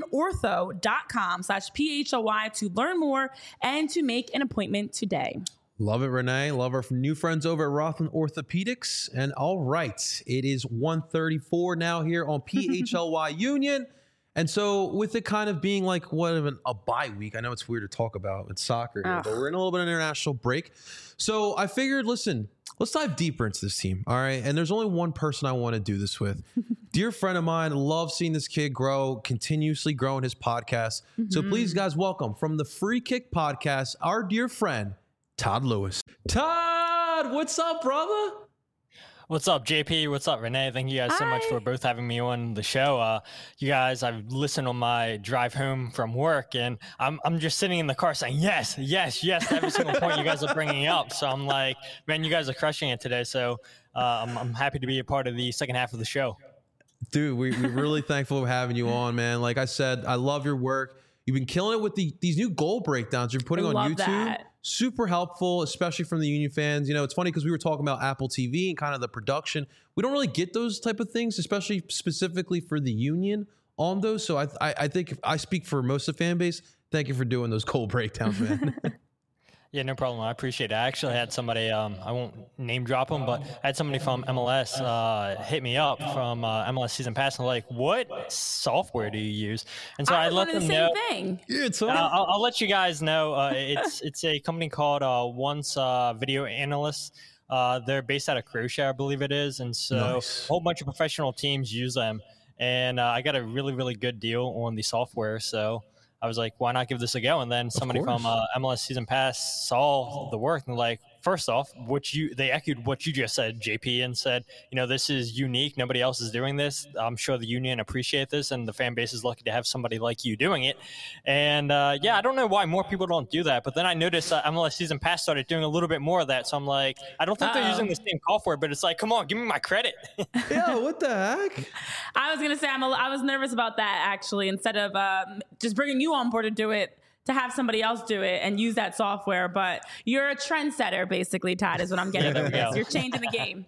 rothmanortho.com/PHLY to learn more and to make an appointment today. Love it, Renee. Love our new friends over at Rothman Orthopedics. And all right, it is 1:34 now here on PHLY Union. And so with it kind of being like a bye week, I know it's weird to talk about in soccer here, but we're in a little bit of an international break. So I figured, listen, let's dive deeper into this team, all right? And there's only one person I want to do this with. Dear friend of mine, love seeing this kid grow, continuously growing his podcast. So please, guys, welcome from the Free Kick Podcast, our dear friend, Todd Lewis. Todd, what's up, brother? What's up, JP? What's up, Renee? Thank you guys so much for both having me on the show. You guys, I've listened on my drive home from work, and I'm just sitting in the car saying yes to every single point you guys are bringing up. So I'm like, man, you guys are crushing it today. So I'm happy to be a part of the second half of the show. Dude, we're really thankful for having you on, man. Like I said, I love your work. You've been killing it with these new goal breakdowns you're putting on YouTube. That. Super helpful, especially from the Union fans. You know, it's funny because we were talking about Apple TV and kind of the production. We don't really get those type of things, especially specifically for the Union on those. So I think if I speak for most of the fan base, thank you for doing those goal breakdowns, man. Yeah, no problem. I appreciate it. I actually had somebody, I won't name drop them, but I had somebody from MLS hit me up from MLS Season Pass, and like, what software do you use? And so I let them know. Thing. Yeah, it's I'll let you guys know. It's a company called Once Video Analysts. They're based out of Croatia, I believe it is. And so a whole bunch of professional teams use them. And I got a really, really good deal on the software. So I was like, why not give this a go? And then somebody from MLS Season Pass saw the work and like, first off, they echoed what you just said, JP, and said, you know, this is unique. Nobody else is doing this. I'm sure the Union appreciate this, and the fan base is lucky to have somebody like you doing it. And yeah, I don't know why more people don't do that. But then I noticed MLS Season Pass started doing a little bit more of that. So I'm like, I don't think they're using the same software, but it's like, come on, give me my credit. Yeah, what the heck? I was going to say, I was nervous about that, actually, instead of just bringing you on board to do it, to have somebody else do it and use that software. But you're a trendsetter, basically, Todd, is what I'm getting from this. You're changing the game.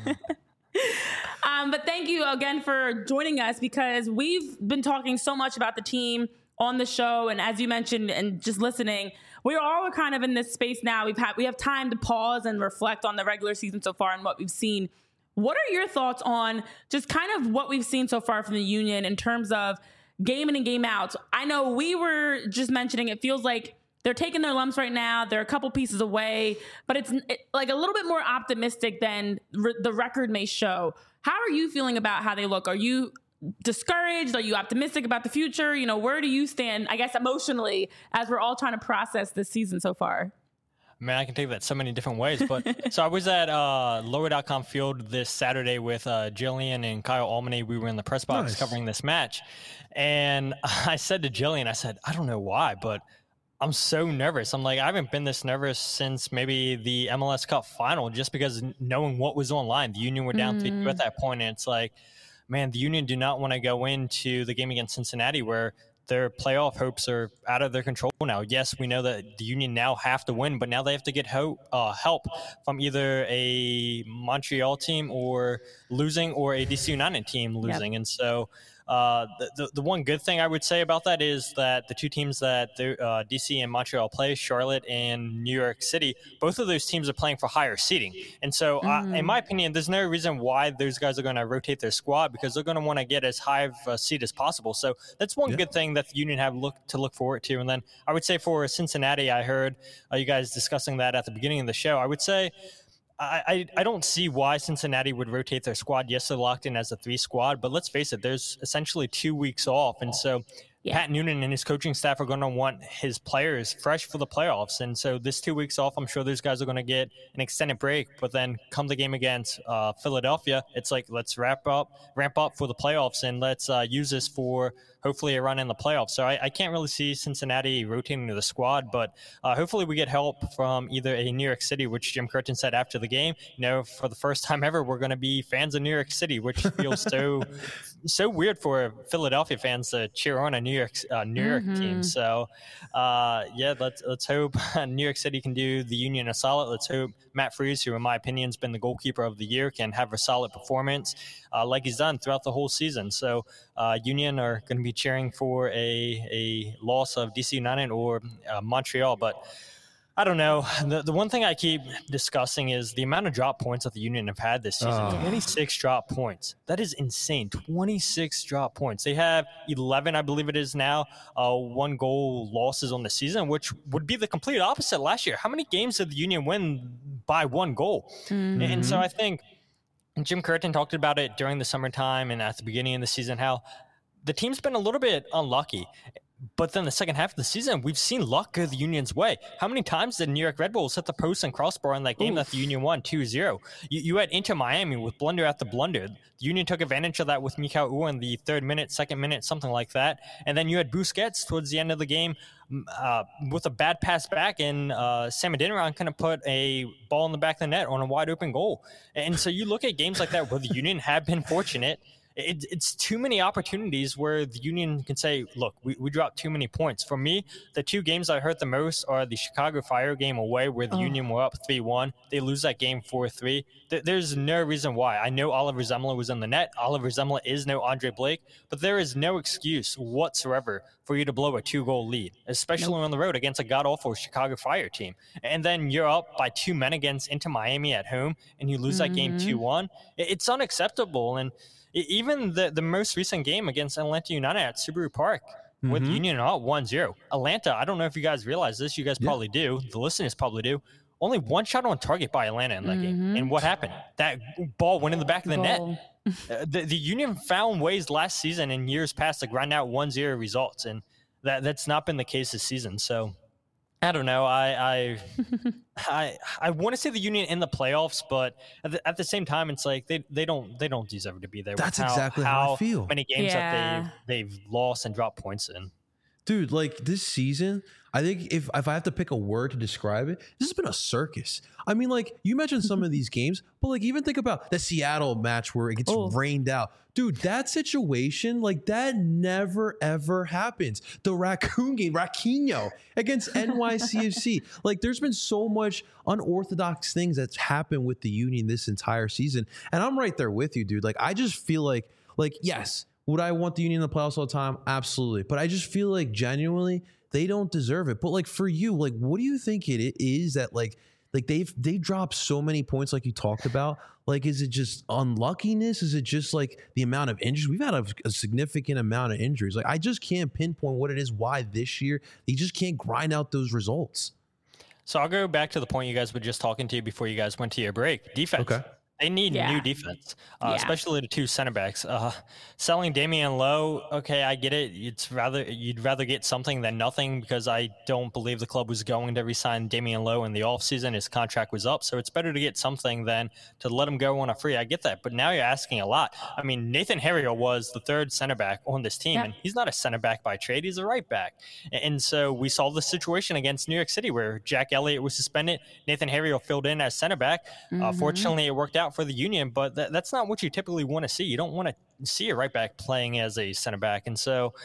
But thank you again for joining us, because we've been talking so much about the team on the show. And as you mentioned, and just listening, we're all kind of in this space now. We have time to pause and reflect on the regular season so far and what we've seen. What are your thoughts on just kind of what we've seen so far from the Union in terms of game in and game out? I know we were just mentioning, it feels like they're taking their lumps right now. They're a couple pieces away, but it's like a little bit more optimistic than the record may show. How are you feeling about how they look? Are you discouraged? Are you optimistic about the future? You know, where do you stand, I guess, emotionally, as we're all trying to process this season so far? Man, I can take that so many different ways. But so I was at Lower.com Field this Saturday with Jillian and Kyle Almany. We were in the press box covering this match. And I said to Jillian, I said, I don't know why, but I'm so nervous. I'm like, I haven't been this nervous since maybe the MLS Cup final, just because knowing what was online. The Union were down 3-2 at that point. And it's like, man, the Union do not want to go into the game against Cincinnati where their playoff hopes are out of their control now. Yes, we know that the Union now have to win, but now they have to get help from either a Montreal team or losing, or a DC United team losing. Yep. And so the one good thing I would say about that is that the two teams that DC and Montreal play, Charlotte and New York City, both of those teams are playing for higher seeding. And so in my opinion, there's no reason why those guys are going to rotate their squad, because they're going to want to get as high of a seed as possible. So that's one good thing that the Union have to look forward to. And then I would say for Cincinnati, I heard you guys discussing that at the beginning of the show. I would say I don't see why Cincinnati would rotate their squad. Yes, they're locked in as a 3 squad, but let's face it, there's essentially 2 weeks off. And so Pat Noonan and his coaching staff are going to want his players fresh for the playoffs. And so this 2 weeks off, I'm sure those guys are going to get an extended break. But then come the game against Philadelphia, it's like, let's ramp up for the playoffs, and let's use this for hopefully a run in the playoffs. So I can't really see Cincinnati rotating to the squad, but hopefully we get help from either a New York City, which Jim Curtin said after the game, you know, for the first time ever, we're going to be fans of New York City, which feels so weird for Philadelphia fans to cheer on a New York team. So let's hope New York City can do the Union a solid. Let's hope Matt Freese, who in my opinion has been the goalkeeper of the year, can have a solid performance like he's done throughout the whole season. So Union are going to be cheering for a loss of DC United or Montreal, but I don't know. The one thing I keep discussing is the amount of drop points that the Union have had this season. 26 drop points. That is insane. 26 drop points. They have 11, I believe it is now, 1 goal losses on the season, which would be the complete opposite last year. How many games did the Union win by 1 goal? And so I think Jim Curtin talked about it during the summertime and at the beginning of the season, how the team's been a little bit unlucky. But then the second half of the season, we've seen luck go the Union's way. How many times did New York Red Bulls hit the post and crossbar in that game that the Union won 2-0? You had Inter Miami with blunder after blunder. The Union took advantage of that with Mikal Uhre in the third minute, second minute, something like that. And then you had Busquets towards the end of the game with a bad pass back, and Sam Adeniran kind of put a ball in the back of the net on a wide open goal. And so you look at games like that where the Union have been fortunate. It's too many opportunities where the Union can say, look, we dropped too many points. For me, the two games I hurt the most are the Chicago Fire game away where the Union were up 3-1. They lose that game 4-3. There's no reason why. I know Oliver Zemler was in the net. Oliver Zemler is no Andre Blake, but there is no excuse whatsoever for you to blow a 2-goal lead, especially on the road against a god-awful Chicago Fire team. And then you're up by 2 men against Inter Miami at home, and you lose that game 2-1. It's unacceptable. And even the most recent game against Atlanta United at Subaru Park with Union up 1-0. Atlanta, I don't know if you guys realize this. You guys probably do. The listeners probably do. Only one shot on target by Atlanta in that game. And what happened? That ball went in the back of the net. The Union found ways last season and years past to grind out 1-0 results. And that's not been the case this season. So I don't know. I want to say the Union in the playoffs, but at the same time, it's like they don't deserve to be there. That's exactly how I feel. Many games that they've lost and dropped points in. Dude, like this season, I think if I have to pick a word to describe it, this has been a circus. I mean, like you mentioned some of these games, but like even think about the Seattle match where it gets rained out. Dude, that situation, like that never, ever happens. The Raccoon game, Raquinho against NYCFC. Like there's been so much unorthodox things that's happened with the Union this entire season. And I'm right there with you, dude. Like I just feel like yes, would I want the Union in the playoffs all the time? Absolutely. But I just feel like genuinely they don't deserve it. But like for you, like what do you think it is that like they dropped so many points like you talked about? Like, is it just unluckiness? Is it just like the amount of injuries? We've had a significant amount of injuries. Like I just can't pinpoint what it is, why this year they just can't grind out those results. So I'll go back to the point you guys were just talking to before you guys went to your break. Defense. Okay. They need new defense, especially the two center backs. Selling Damian Lowe, okay, I get it. You'd rather get something than nothing because I don't believe the club was going to re-sign Damian Lowe in the offseason. His contract was up, so it's better to get something than to let him go on a free. I get that, but now you're asking a lot. I mean, Nathan Herriot was the third center back on this team, and he's not a center back by trade. He's a right back. And so we saw the situation against New York City where Jack Elliott was suspended. Nathan Herriot filled in as center back. Fortunately, it worked out for the Union, but that's not what you typically want to see. You don't want to see a right back playing as a center back. And so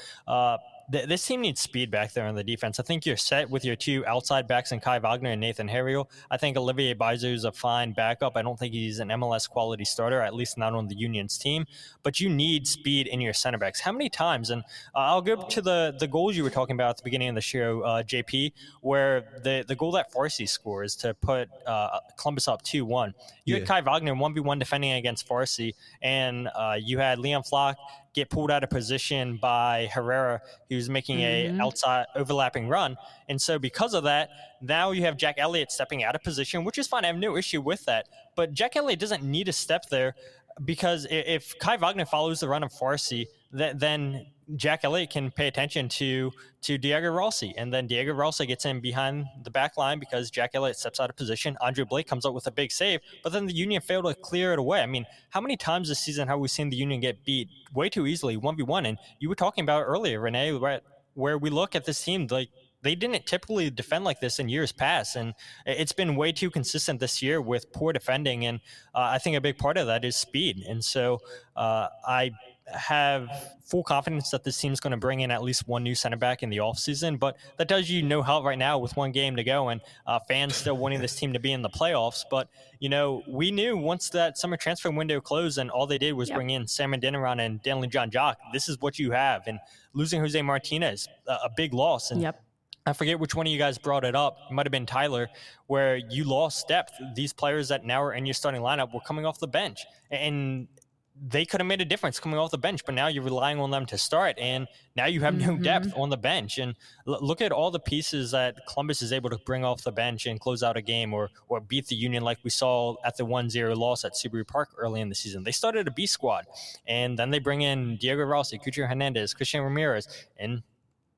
this team needs speed back there on the defense. I think you're set with your two outside backs in Kai Wagner and Nathan Herriot. I think Olivier Baizu is a fine backup. I don't think he's an MLS quality starter, at least not on the Union's team. But you need speed in your center backs. How many times? And I'll go to the goals you were talking about at the beginning of the show, JP, where the goal that Farsi scores to put Columbus up 2-1. You had Kai Wagner 1v1 defending against Farsi, and you had Leon Flock get pulled out of position by Herrera, who's making a outside overlapping run. And so because of that, now you have Jack Elliott stepping out of position, which is fine. I have no issue with that. But Jack Elliott doesn't need to step there because if Kai Wagner follows the run of Farsi, then Jack Elliott can pay attention to Diego Rossi, and then Diego Rossi gets in behind the back line because Jack Elliott steps out of position. Andre Blake comes up with a big save, but then the Union failed to clear it away. I mean, how many times this season have we seen the Union get beat way too easily, 1v1? And you were talking about earlier, Renee, right, where we look at this team, like they didn't typically defend like this in years past, and it's been way too consistent this year with poor defending, and I think a big part of that is speed. And so I have full confidence that this team's going to bring in at least one new center back in the offseason, but that does you no help right now with one game to go and fans still wanting this team to be in the playoffs. But, you know, we knew once that summer transfer window closed and all they did was bring in Sam Adeniran and Danley John Jock, this is what you have. And losing Jose Martinez, a big loss. And I forget which one of you guys brought it up. It might have been Tyler, where you lost depth. These players that now are in your starting lineup were coming off the bench, and they could have made a difference coming off the bench, but now you're relying on them to start, and now you have no depth on the bench. And look at all the pieces that Columbus is able to bring off the bench and close out a game or beat the Union like we saw at the 1-0 loss at Subaru Park early in the season. They started a B squad, and then they bring in Diego Rossi, Cucho Hernandez, Christian Ramirez, and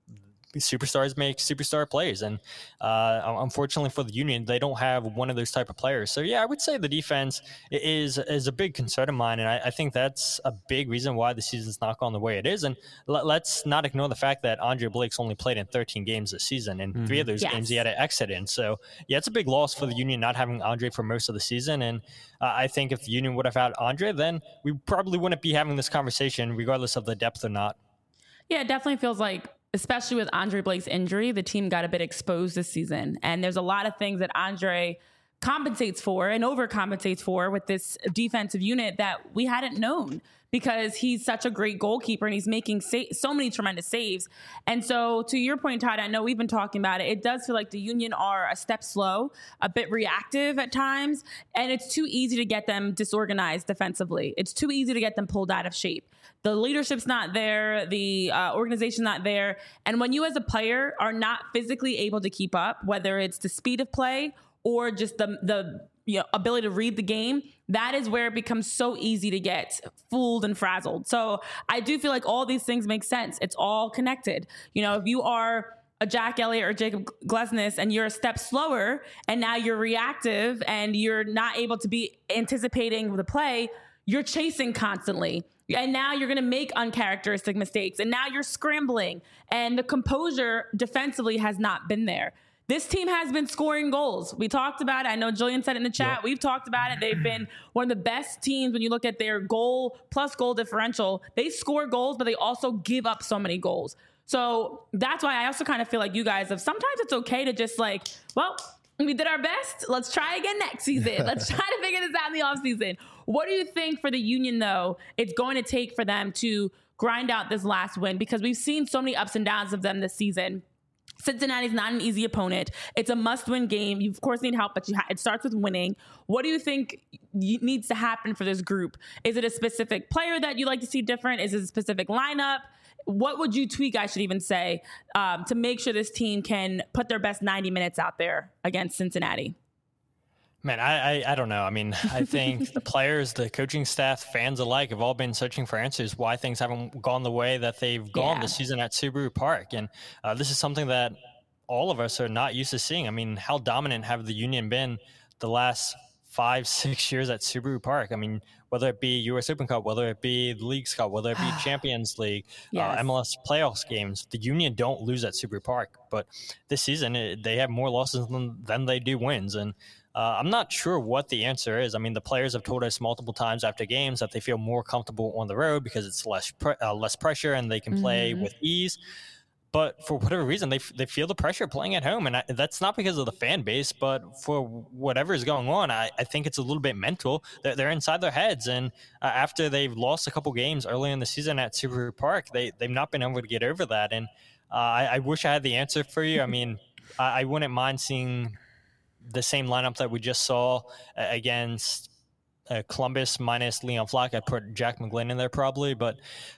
superstars make superstar plays. And unfortunately for the Union, they don't have one of those type of players. So, yeah, I would say the defense is a big concern of mine. And I think that's a big reason why the season's not gone the way it is. And let's not ignore the fact that Andre Blake's only played in 13 games this season. And 3 of those games he had to exit in. So, yeah, it's a big loss for the Union not having Andre for most of the season. And I think if the Union would have had Andre, then we probably wouldn't be having this conversation regardless of the depth or not. Yeah, it definitely feels like, especially with Andre Blake's injury, the team got a bit exposed this season. And there's a lot of things that Andre compensates for and overcompensates for with this defensive unit that we hadn't known, because he's such a great goalkeeper and he's making so many tremendous saves. And so to your point, Todd, I know we've been talking about it. It does feel like the Union are a step slow, a bit reactive at times, and it's too easy to get them disorganized defensively. It's too easy to get them pulled out of shape. The leadership's not there. The organization's not there. And when you as a player are not physically able to keep up, whether it's the speed of play or just the ability to read the game, that is where it becomes so easy to get fooled and frazzled. So I do feel like all these things make sense. It's all connected. If you are a Jack Elliott or Jacob Glesnes and you're a step slower and now you're reactive and you're not able to be anticipating the play, you're chasing constantly. And now you're going to make uncharacteristic mistakes. And now you're scrambling. And the composure defensively has not been there. This team has been scoring goals. We talked about it. I know Julian said it in the chat. Yep. We've talked about it. They've been one of the best teams when you look at their goal plus goal differential. They score goals, but they also give up so many goals. So that's why I also kind of feel like you guys have, sometimes it's okay to just we did our best. Let's try again next season. Let's try to figure this out in the offseason. What do you think for the Union, though, it's going to take for them to grind out this last win? Because we've seen so many ups and downs of them this season. Cincinnati's not an easy opponent. It's a must-win game. You, of course, need help, but it starts with winning. What do you think needs to happen for this group? Is it a specific player that you'd like to see different? Is it a specific lineup? What would you tweak, I should even say, to make sure this team can put their best 90 minutes out there against Cincinnati? Man, I don't know. I mean, I think the players, the coaching staff, fans alike have all been searching for answers why things haven't gone the way that they've gone this season at Subaru Park. And this is something that all of us are not used to seeing. I mean, how dominant have the Union been the last 5-6 years at Subaru Park? I mean, whether it be US Open Cup, whether it be the Leagues Cup, whether it be Champions League, MLS playoffs games, the Union don't lose at Subaru Park. But this season, they have more losses than they do wins. And I'm not sure what the answer is. I mean, the players have told us multiple times after games that they feel more comfortable on the road because it's less pressure and they can play with ease. But for whatever reason, they feel the pressure playing at home. And that's not because of the fan base, but for whatever is going on, I think it's a little bit mental. They're inside their heads. And after they've lost a couple games early in the season at Subaru Park, they've not been able to get over that. And I wish I had the answer for you. I mean, I wouldn't mind seeing the same lineup that we just saw against Columbus minus Leon Flack. I'd put Jack McGlynn in there probably, but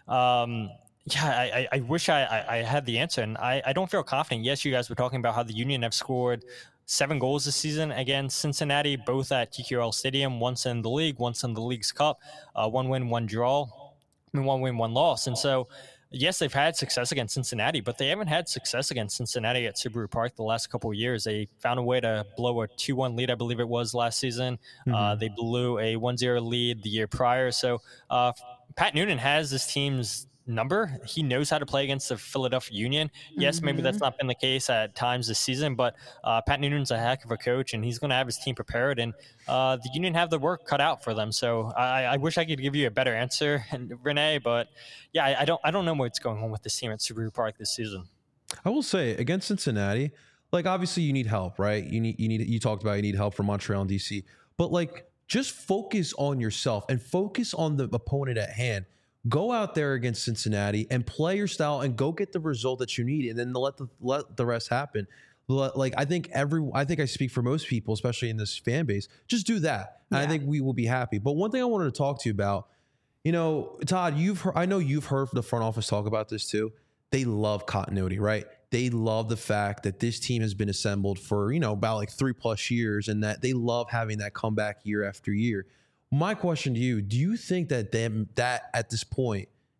I wish I had the answer, and I don't feel confident. Yes, you guys were talking about how the Union have scored 7 goals this season against Cincinnati, both at TQRL Stadium, once in the league, once in the Leagues Cup, 1 win, 1 draw, 1 win, 1 loss. And so, yes, they've had success against Cincinnati, but they haven't had success against Cincinnati at Subaru Park the last couple of years. They found a way to blow a 2-1 lead, I believe it was last season. They blew a 1-0 lead the year prior. So Pat Noonan has this team's number. He knows how to play against the Philadelphia Union. Yes, maybe that's not been the case at times this season, but Pat Noonan's a heck of a coach, and he's going to have his team prepared, and the Union have the work cut out for them. So I wish I could give you a better answer, Renee, but yeah, I don't know what's going on with this team at Subaru Park this season. I will say against Cincinnati, like obviously you need help, right? You talked about you need help from Montreal and DC, but like just focus on yourself and focus on the opponent at hand. Go out there against Cincinnati and play your style and go get the result that you need, and then let the rest happen. Like I think I speak for most people, especially in this fan base. Just do that, and I think we will be happy. But one thing I wanted to talk to you about, Todd, I know you've heard the front office talk about this too. They love continuity, right? They love the fact that this team has been assembled for about like 3+ years, and that they love having that comeback year after year. My question to you, do you think that at this point,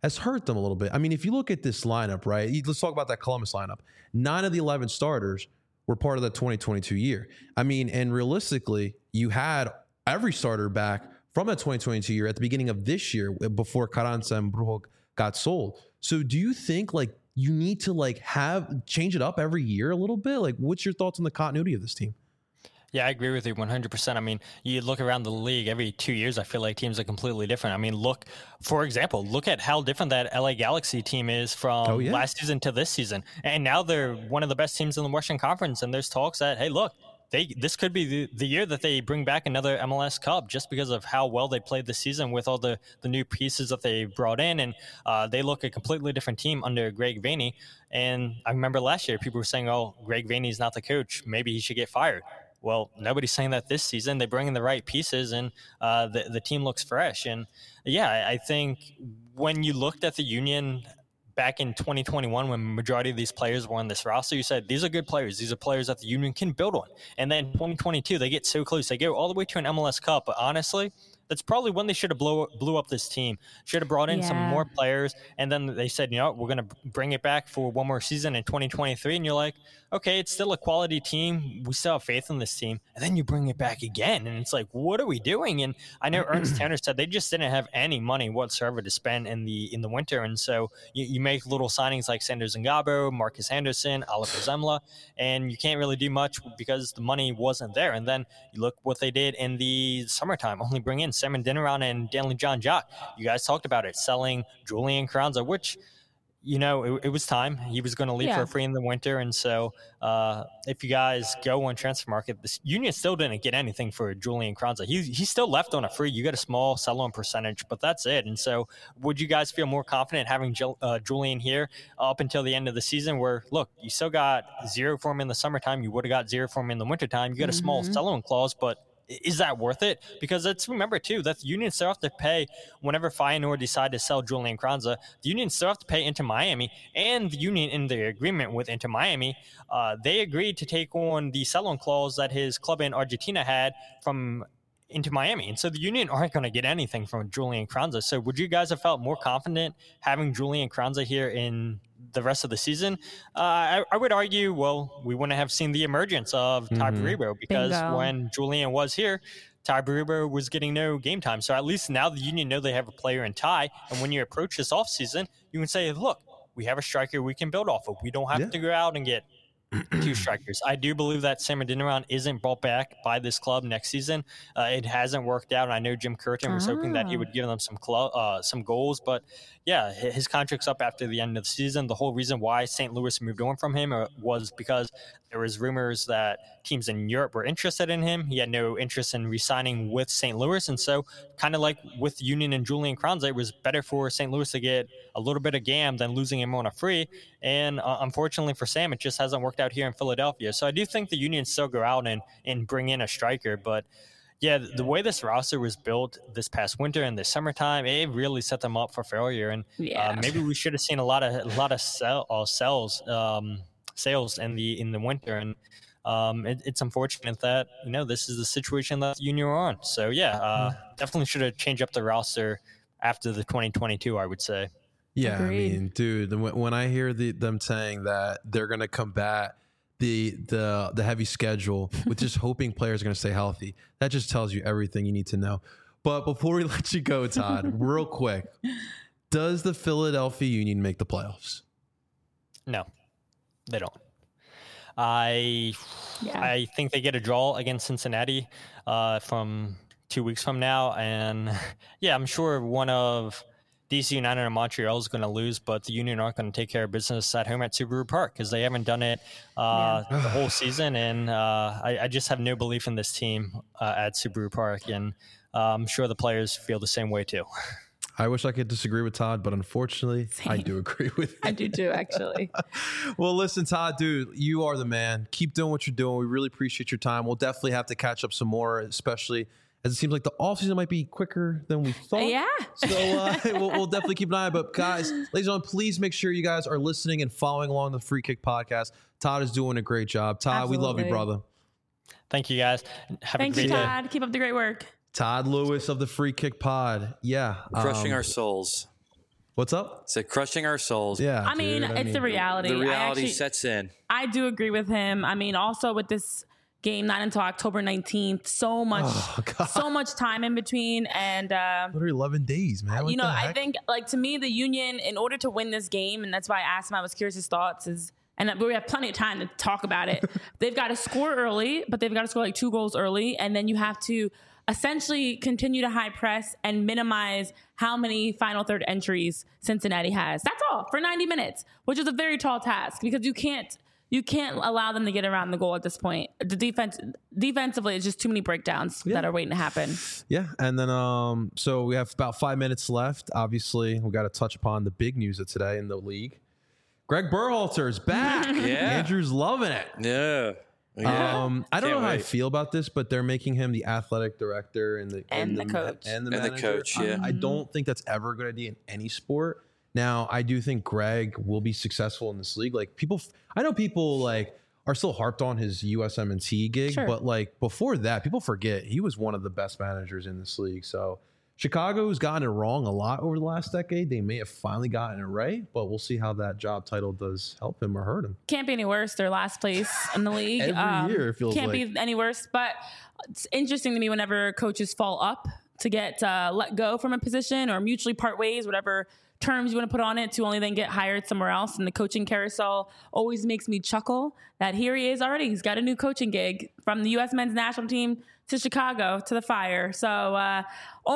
has hurt them a little bit. I mean, if you look at this lineup, right? Let's talk about that Columbus lineup. 9 of the 11 starters were part of the 2022 year. I mean, and realistically, you had every starter back from that 2022 year at the beginning of this year before Carranza and Brujo got sold. So do you think like you need to like change it up every year a little bit? Like, what's your thoughts on the continuity of this team? Yeah, I agree with you 100%. I mean, you look around the league every 2 years, I feel like teams are completely different. I mean, for example, look at how different that LA Galaxy team is from last season to this season. And now they're one of the best teams in the Western Conference. And there's talks that, hey, look, this could be the year that they bring back another MLS Cup just because of how well they played this season with all the new pieces that they brought in. And they look a completely different team under Greg Vanney. And I remember last year, people were saying, oh, Greg Vanney's not the coach. Maybe he should get fired. Well, nobody's saying that this season. They bring in the right pieces, and the team looks fresh. And, yeah, I think when you looked at the Union back in 2021, when the majority of these players were on this roster, you said, these are good players. These are players that the Union can build on. And then 2022, they get so close. They go all the way to an MLS Cup. But honestly, that's probably when they should have blew up this team. Should have brought in some more players. And then they said, you know, we're going to bring it back for one more season in 2023. And you're like, okay, it's still a quality team. We still have faith in this team. And then you bring it back again. And it's like, what are we doing? And I know Ernst Tanner said they just didn't have any money whatsoever to spend in the winter. And so you make little signings like Sanders Ngabo, Marcus Anderson, Oliver Zemla, and you can't really do much because the money wasn't there. And then you look what they did in the summertime, only bring in Simon Dinaron and Danley John Jock. You guys talked about it, selling Julian Carranza, which, you know, it was time. He was going to leave for free in the winter. And so if you guys go on transfer market, the Union still didn't get anything for Julian Carranza. He still left on a free. You get a small sell-on percentage, but that's it. And so would you guys feel more confident having Julian here up until the end of the season where, look, you still got zero for him in the summertime. You would have got zero for him in the wintertime. You got a small sell-on clause, but is that worth it? Because let's remember, too, that the Union still have to pay whenever Feyenoord decide to sell Julian Carranza. The Union still have to pay Inter Miami, and the Union in the agreement with Inter Miami, they agreed to take on the sell-on clause that his club in Argentina had from Inter Miami. And so the Union aren't going to get anything from Julian Carranza. So would you guys have felt more confident having Julian Carranza here in the rest of the season? I would argue, well, we wouldn't have seen the emergence of Ty Baribo because when Julian was here, Ty Baribo was getting no game time. So at least now the Union know they have a player in Ty. And when you approach this offseason, you can say, look, we have a striker we can build off of. We don't have to go out and get 2 strikers. I do believe that Sam Adeniran isn't brought back by this club next season. It hasn't worked out. I know Jim Curtin was hoping that he would give them some goals, but yeah, his contract's up after the end of the season. The whole reason why St. Louis moved on from him was because there was rumors that teams in Europe were interested in him. He had no interest in re-signing with St. Louis, and so kind of like with Union and Julian Carranza, it was better for St. Louis to get a little bit of GAM than losing him on a free. And unfortunately for Sam, it just hasn't worked out here in Philadelphia. So I do think the Union still go out and bring in a striker, but yeah, the way this roster was built this past winter and this summertime, it really set them up for failure. And maybe we should have seen a lot of sales in the winter. And it's unfortunate that, you know, this is the situation that the Union are on. So definitely should have changed up the roster after the 2022, I would say. Yeah, Agreed. I mean, dude, when I hear them saying that they're going to combat the heavy schedule with just hoping players are going to stay healthy, that just tells you everything you need to know. But before we let you go, Todd, real quick, does the Philadelphia Union make the playoffs? No, they don't. I think they get a draw against Cincinnati from 2 weeks from now. And yeah, I'm sure one of DC United and Montreal is going to lose, but the Union aren't going to take care of business at home at Subaru Park because they haven't done it the whole season. And I just have no belief in this team at Subaru Park. And I'm sure the players feel the same way too. I wish I could disagree with Todd, but unfortunately, I do agree with you. I do too, actually. Well, listen, Todd, dude, you are the man. Keep doing what you're doing. We really appreciate your time. We'll definitely have to catch up some more, especially as it seems like the offseason might be quicker than we thought. Yeah. So we'll definitely keep an eye. But guys, ladies and gentlemen, please make sure you guys are listening and following along the Free Kick podcast. Todd is doing a great job. Todd, we love you, brother. Thank you, guys. Thanks, Todd. Keep up the great work. Todd Lewis of the Free Kick Pod. Yeah. Crushing our souls. What's up? So crushing our souls. Yeah. I mean, it's the reality. The reality sets in. I do agree with him. I mean, also with this game not until October 19th, so much time in between, and literally 11 days, man. What I think, like, to me, the Union, in order to win this game, and that's why I asked him, I was curious his thoughts, and we have plenty of time to talk about it. They've got to score early, but they've got to score like 2 goals early, and then you have to essentially continue to high press and minimize how many final third entries Cincinnati has. That's all for 90 minutes, which is a very tall task because you can't allow them to get around the goal at this point. The defensively, it's just too many breakdowns that are waiting to happen. Yeah, and then so we have about 5 minutes left. Obviously, we got to touch upon the big news of today in the league. Greg Berhalter is back. Andrew's loving it. Yeah. I don't know how I feel about this, but they're making him the athletic director and the coach and the manager. The coach. Yeah. I don't think that's ever a good idea in any sport. Now, I do think Greg will be successful in this league. Like I know people like are still harped on his USMNT gig, but like before that, people forget he was one of the best managers in this league. So Chicago's gotten it wrong a lot over the last decade. They may have finally gotten it right, but we'll see how that job title does help him or hurt him. Can't be any worse. They're last place in the league. Every year it feels can't like. be any worse. But it's interesting to me whenever coaches fall up to get let go from a position or mutually part ways, whatever terms you want to put on it, to only then get hired somewhere else. And the coaching carousel always makes me chuckle that here he is already. He's got a new coaching gig from the U.S. men's national team to Chicago to the Fire. So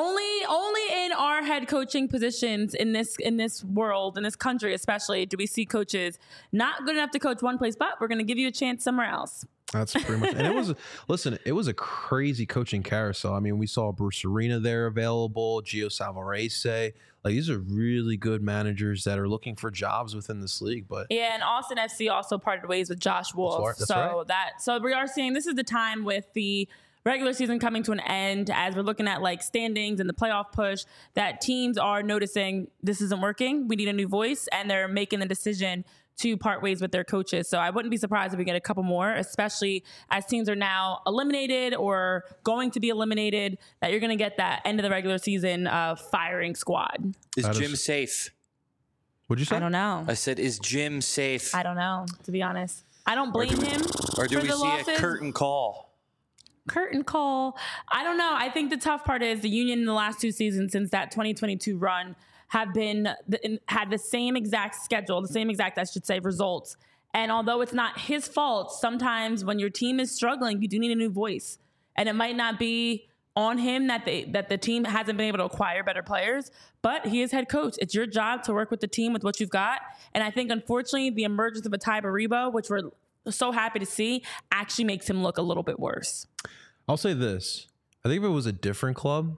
only in our head coaching positions in this world, in this country especially, do we see coaches not good enough to coach one place, but we're going to give you a chance somewhere else. That's pretty much. And it was a crazy coaching carousel. I mean, we saw Bruce Arena there available, Gio Savarese. Like, these are really good managers that are looking for jobs within this league. But yeah, and Austin FC also parted ways with Josh Wolf. So we are seeing this is the time with the regular season coming to an end, as we're looking at like standings and the playoff push, that teams are noticing this isn't working. We need a new voice, and they're making the decision to part ways with their coaches. So I wouldn't be surprised if we get a couple more, especially as teams are now eliminated or going to be eliminated, that you're going to get that end of the regular season firing squad. Is Jim safe? What'd you say? I don't know. I said, is Jim safe? I don't know, to be honest. I don't blame him. Or do we see losses. a curtain call? Curtain call. I don't know. I think the tough part is the Union in the last 2 seasons since that 2022 run have had the same exact schedule, results. And although it's not his fault, sometimes when your team is struggling, you do need a new voice. And it might not be on him that the team hasn't been able to acquire better players, but he is head coach. It's your job to work with the team with what you've got. And I think, unfortunately, the emergence of a Ty Baribo, which we're so happy to see, actually makes him look a little bit worse. I'll say this. I think if it was a different club,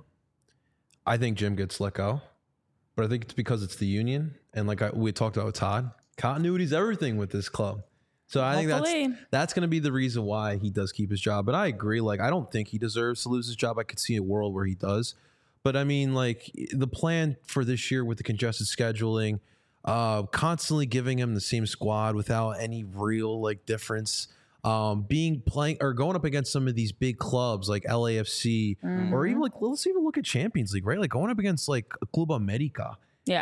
I think Jim gets let go. But I think it's because it's the Union. And like we talked about with Todd, continuity is everything with this club. So I think that's going to be the reason why he does keep his job. But I agree. Like, I don't think he deserves to lose his job. I could see a world where he does. But I mean, like, the plan for this year with the congested scheduling, constantly giving him the same squad without any real like difference, playing or going up against some of these big clubs like LAFC, or even like, let's even look at Champions League, right? Like going up against like Club America,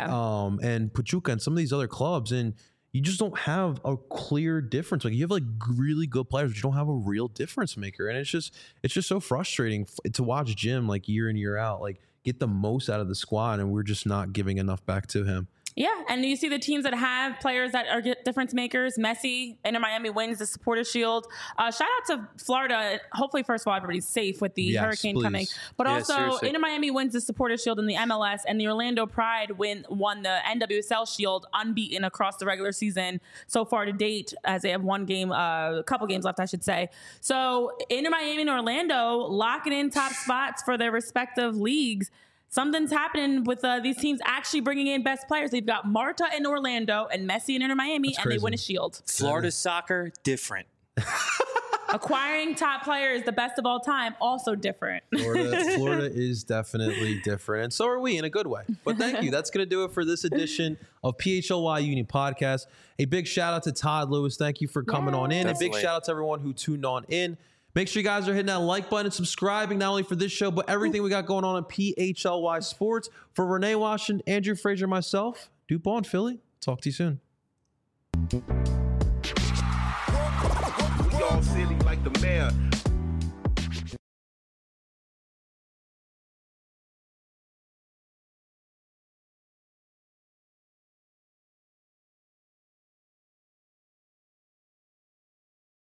and Pachuca and some of these other clubs, and you just don't have a clear difference. Like, you have like really good players, but you don't have a real difference maker, and it's just so frustrating to watch Jim like year in, year out, like get the most out of the squad, and we're just not giving enough back to him. Yeah, and you see the teams that have players that are difference makers. Messi, Inter Miami wins the Supporters Shield. Shout out to Florida. Hopefully, first of all, everybody's safe with the hurricane coming. But also, seriously, Inter Miami wins the Supporters Shield in the MLS, and the Orlando Pride won the NWSL Shield unbeaten across the regular season so far to date, as they have a couple games left, I should say. So Inter Miami and Orlando locking in top spots for their respective leagues. Something's happening with these teams actually bringing in best players. They've got Marta in Orlando and Messi in Inter Miami, and they win a shield. Florida soccer, different. Acquiring top players, the best of all time, also different. Florida is definitely different, and so are we in a good way. But thank you. That's going to do it for this edition of PHLY Union Podcast. A big shout out to Todd Lewis. Thank you for coming on in. Definitely. A big shout out to everyone who tuned on in. Make sure you guys are hitting that like button and subscribing, not only for this show, but everything we got going on PHLY Sports. For Renee Washington, Andrew Frazier, myself, DuPont, Philly. Talk to you soon. We all silly like the mayor.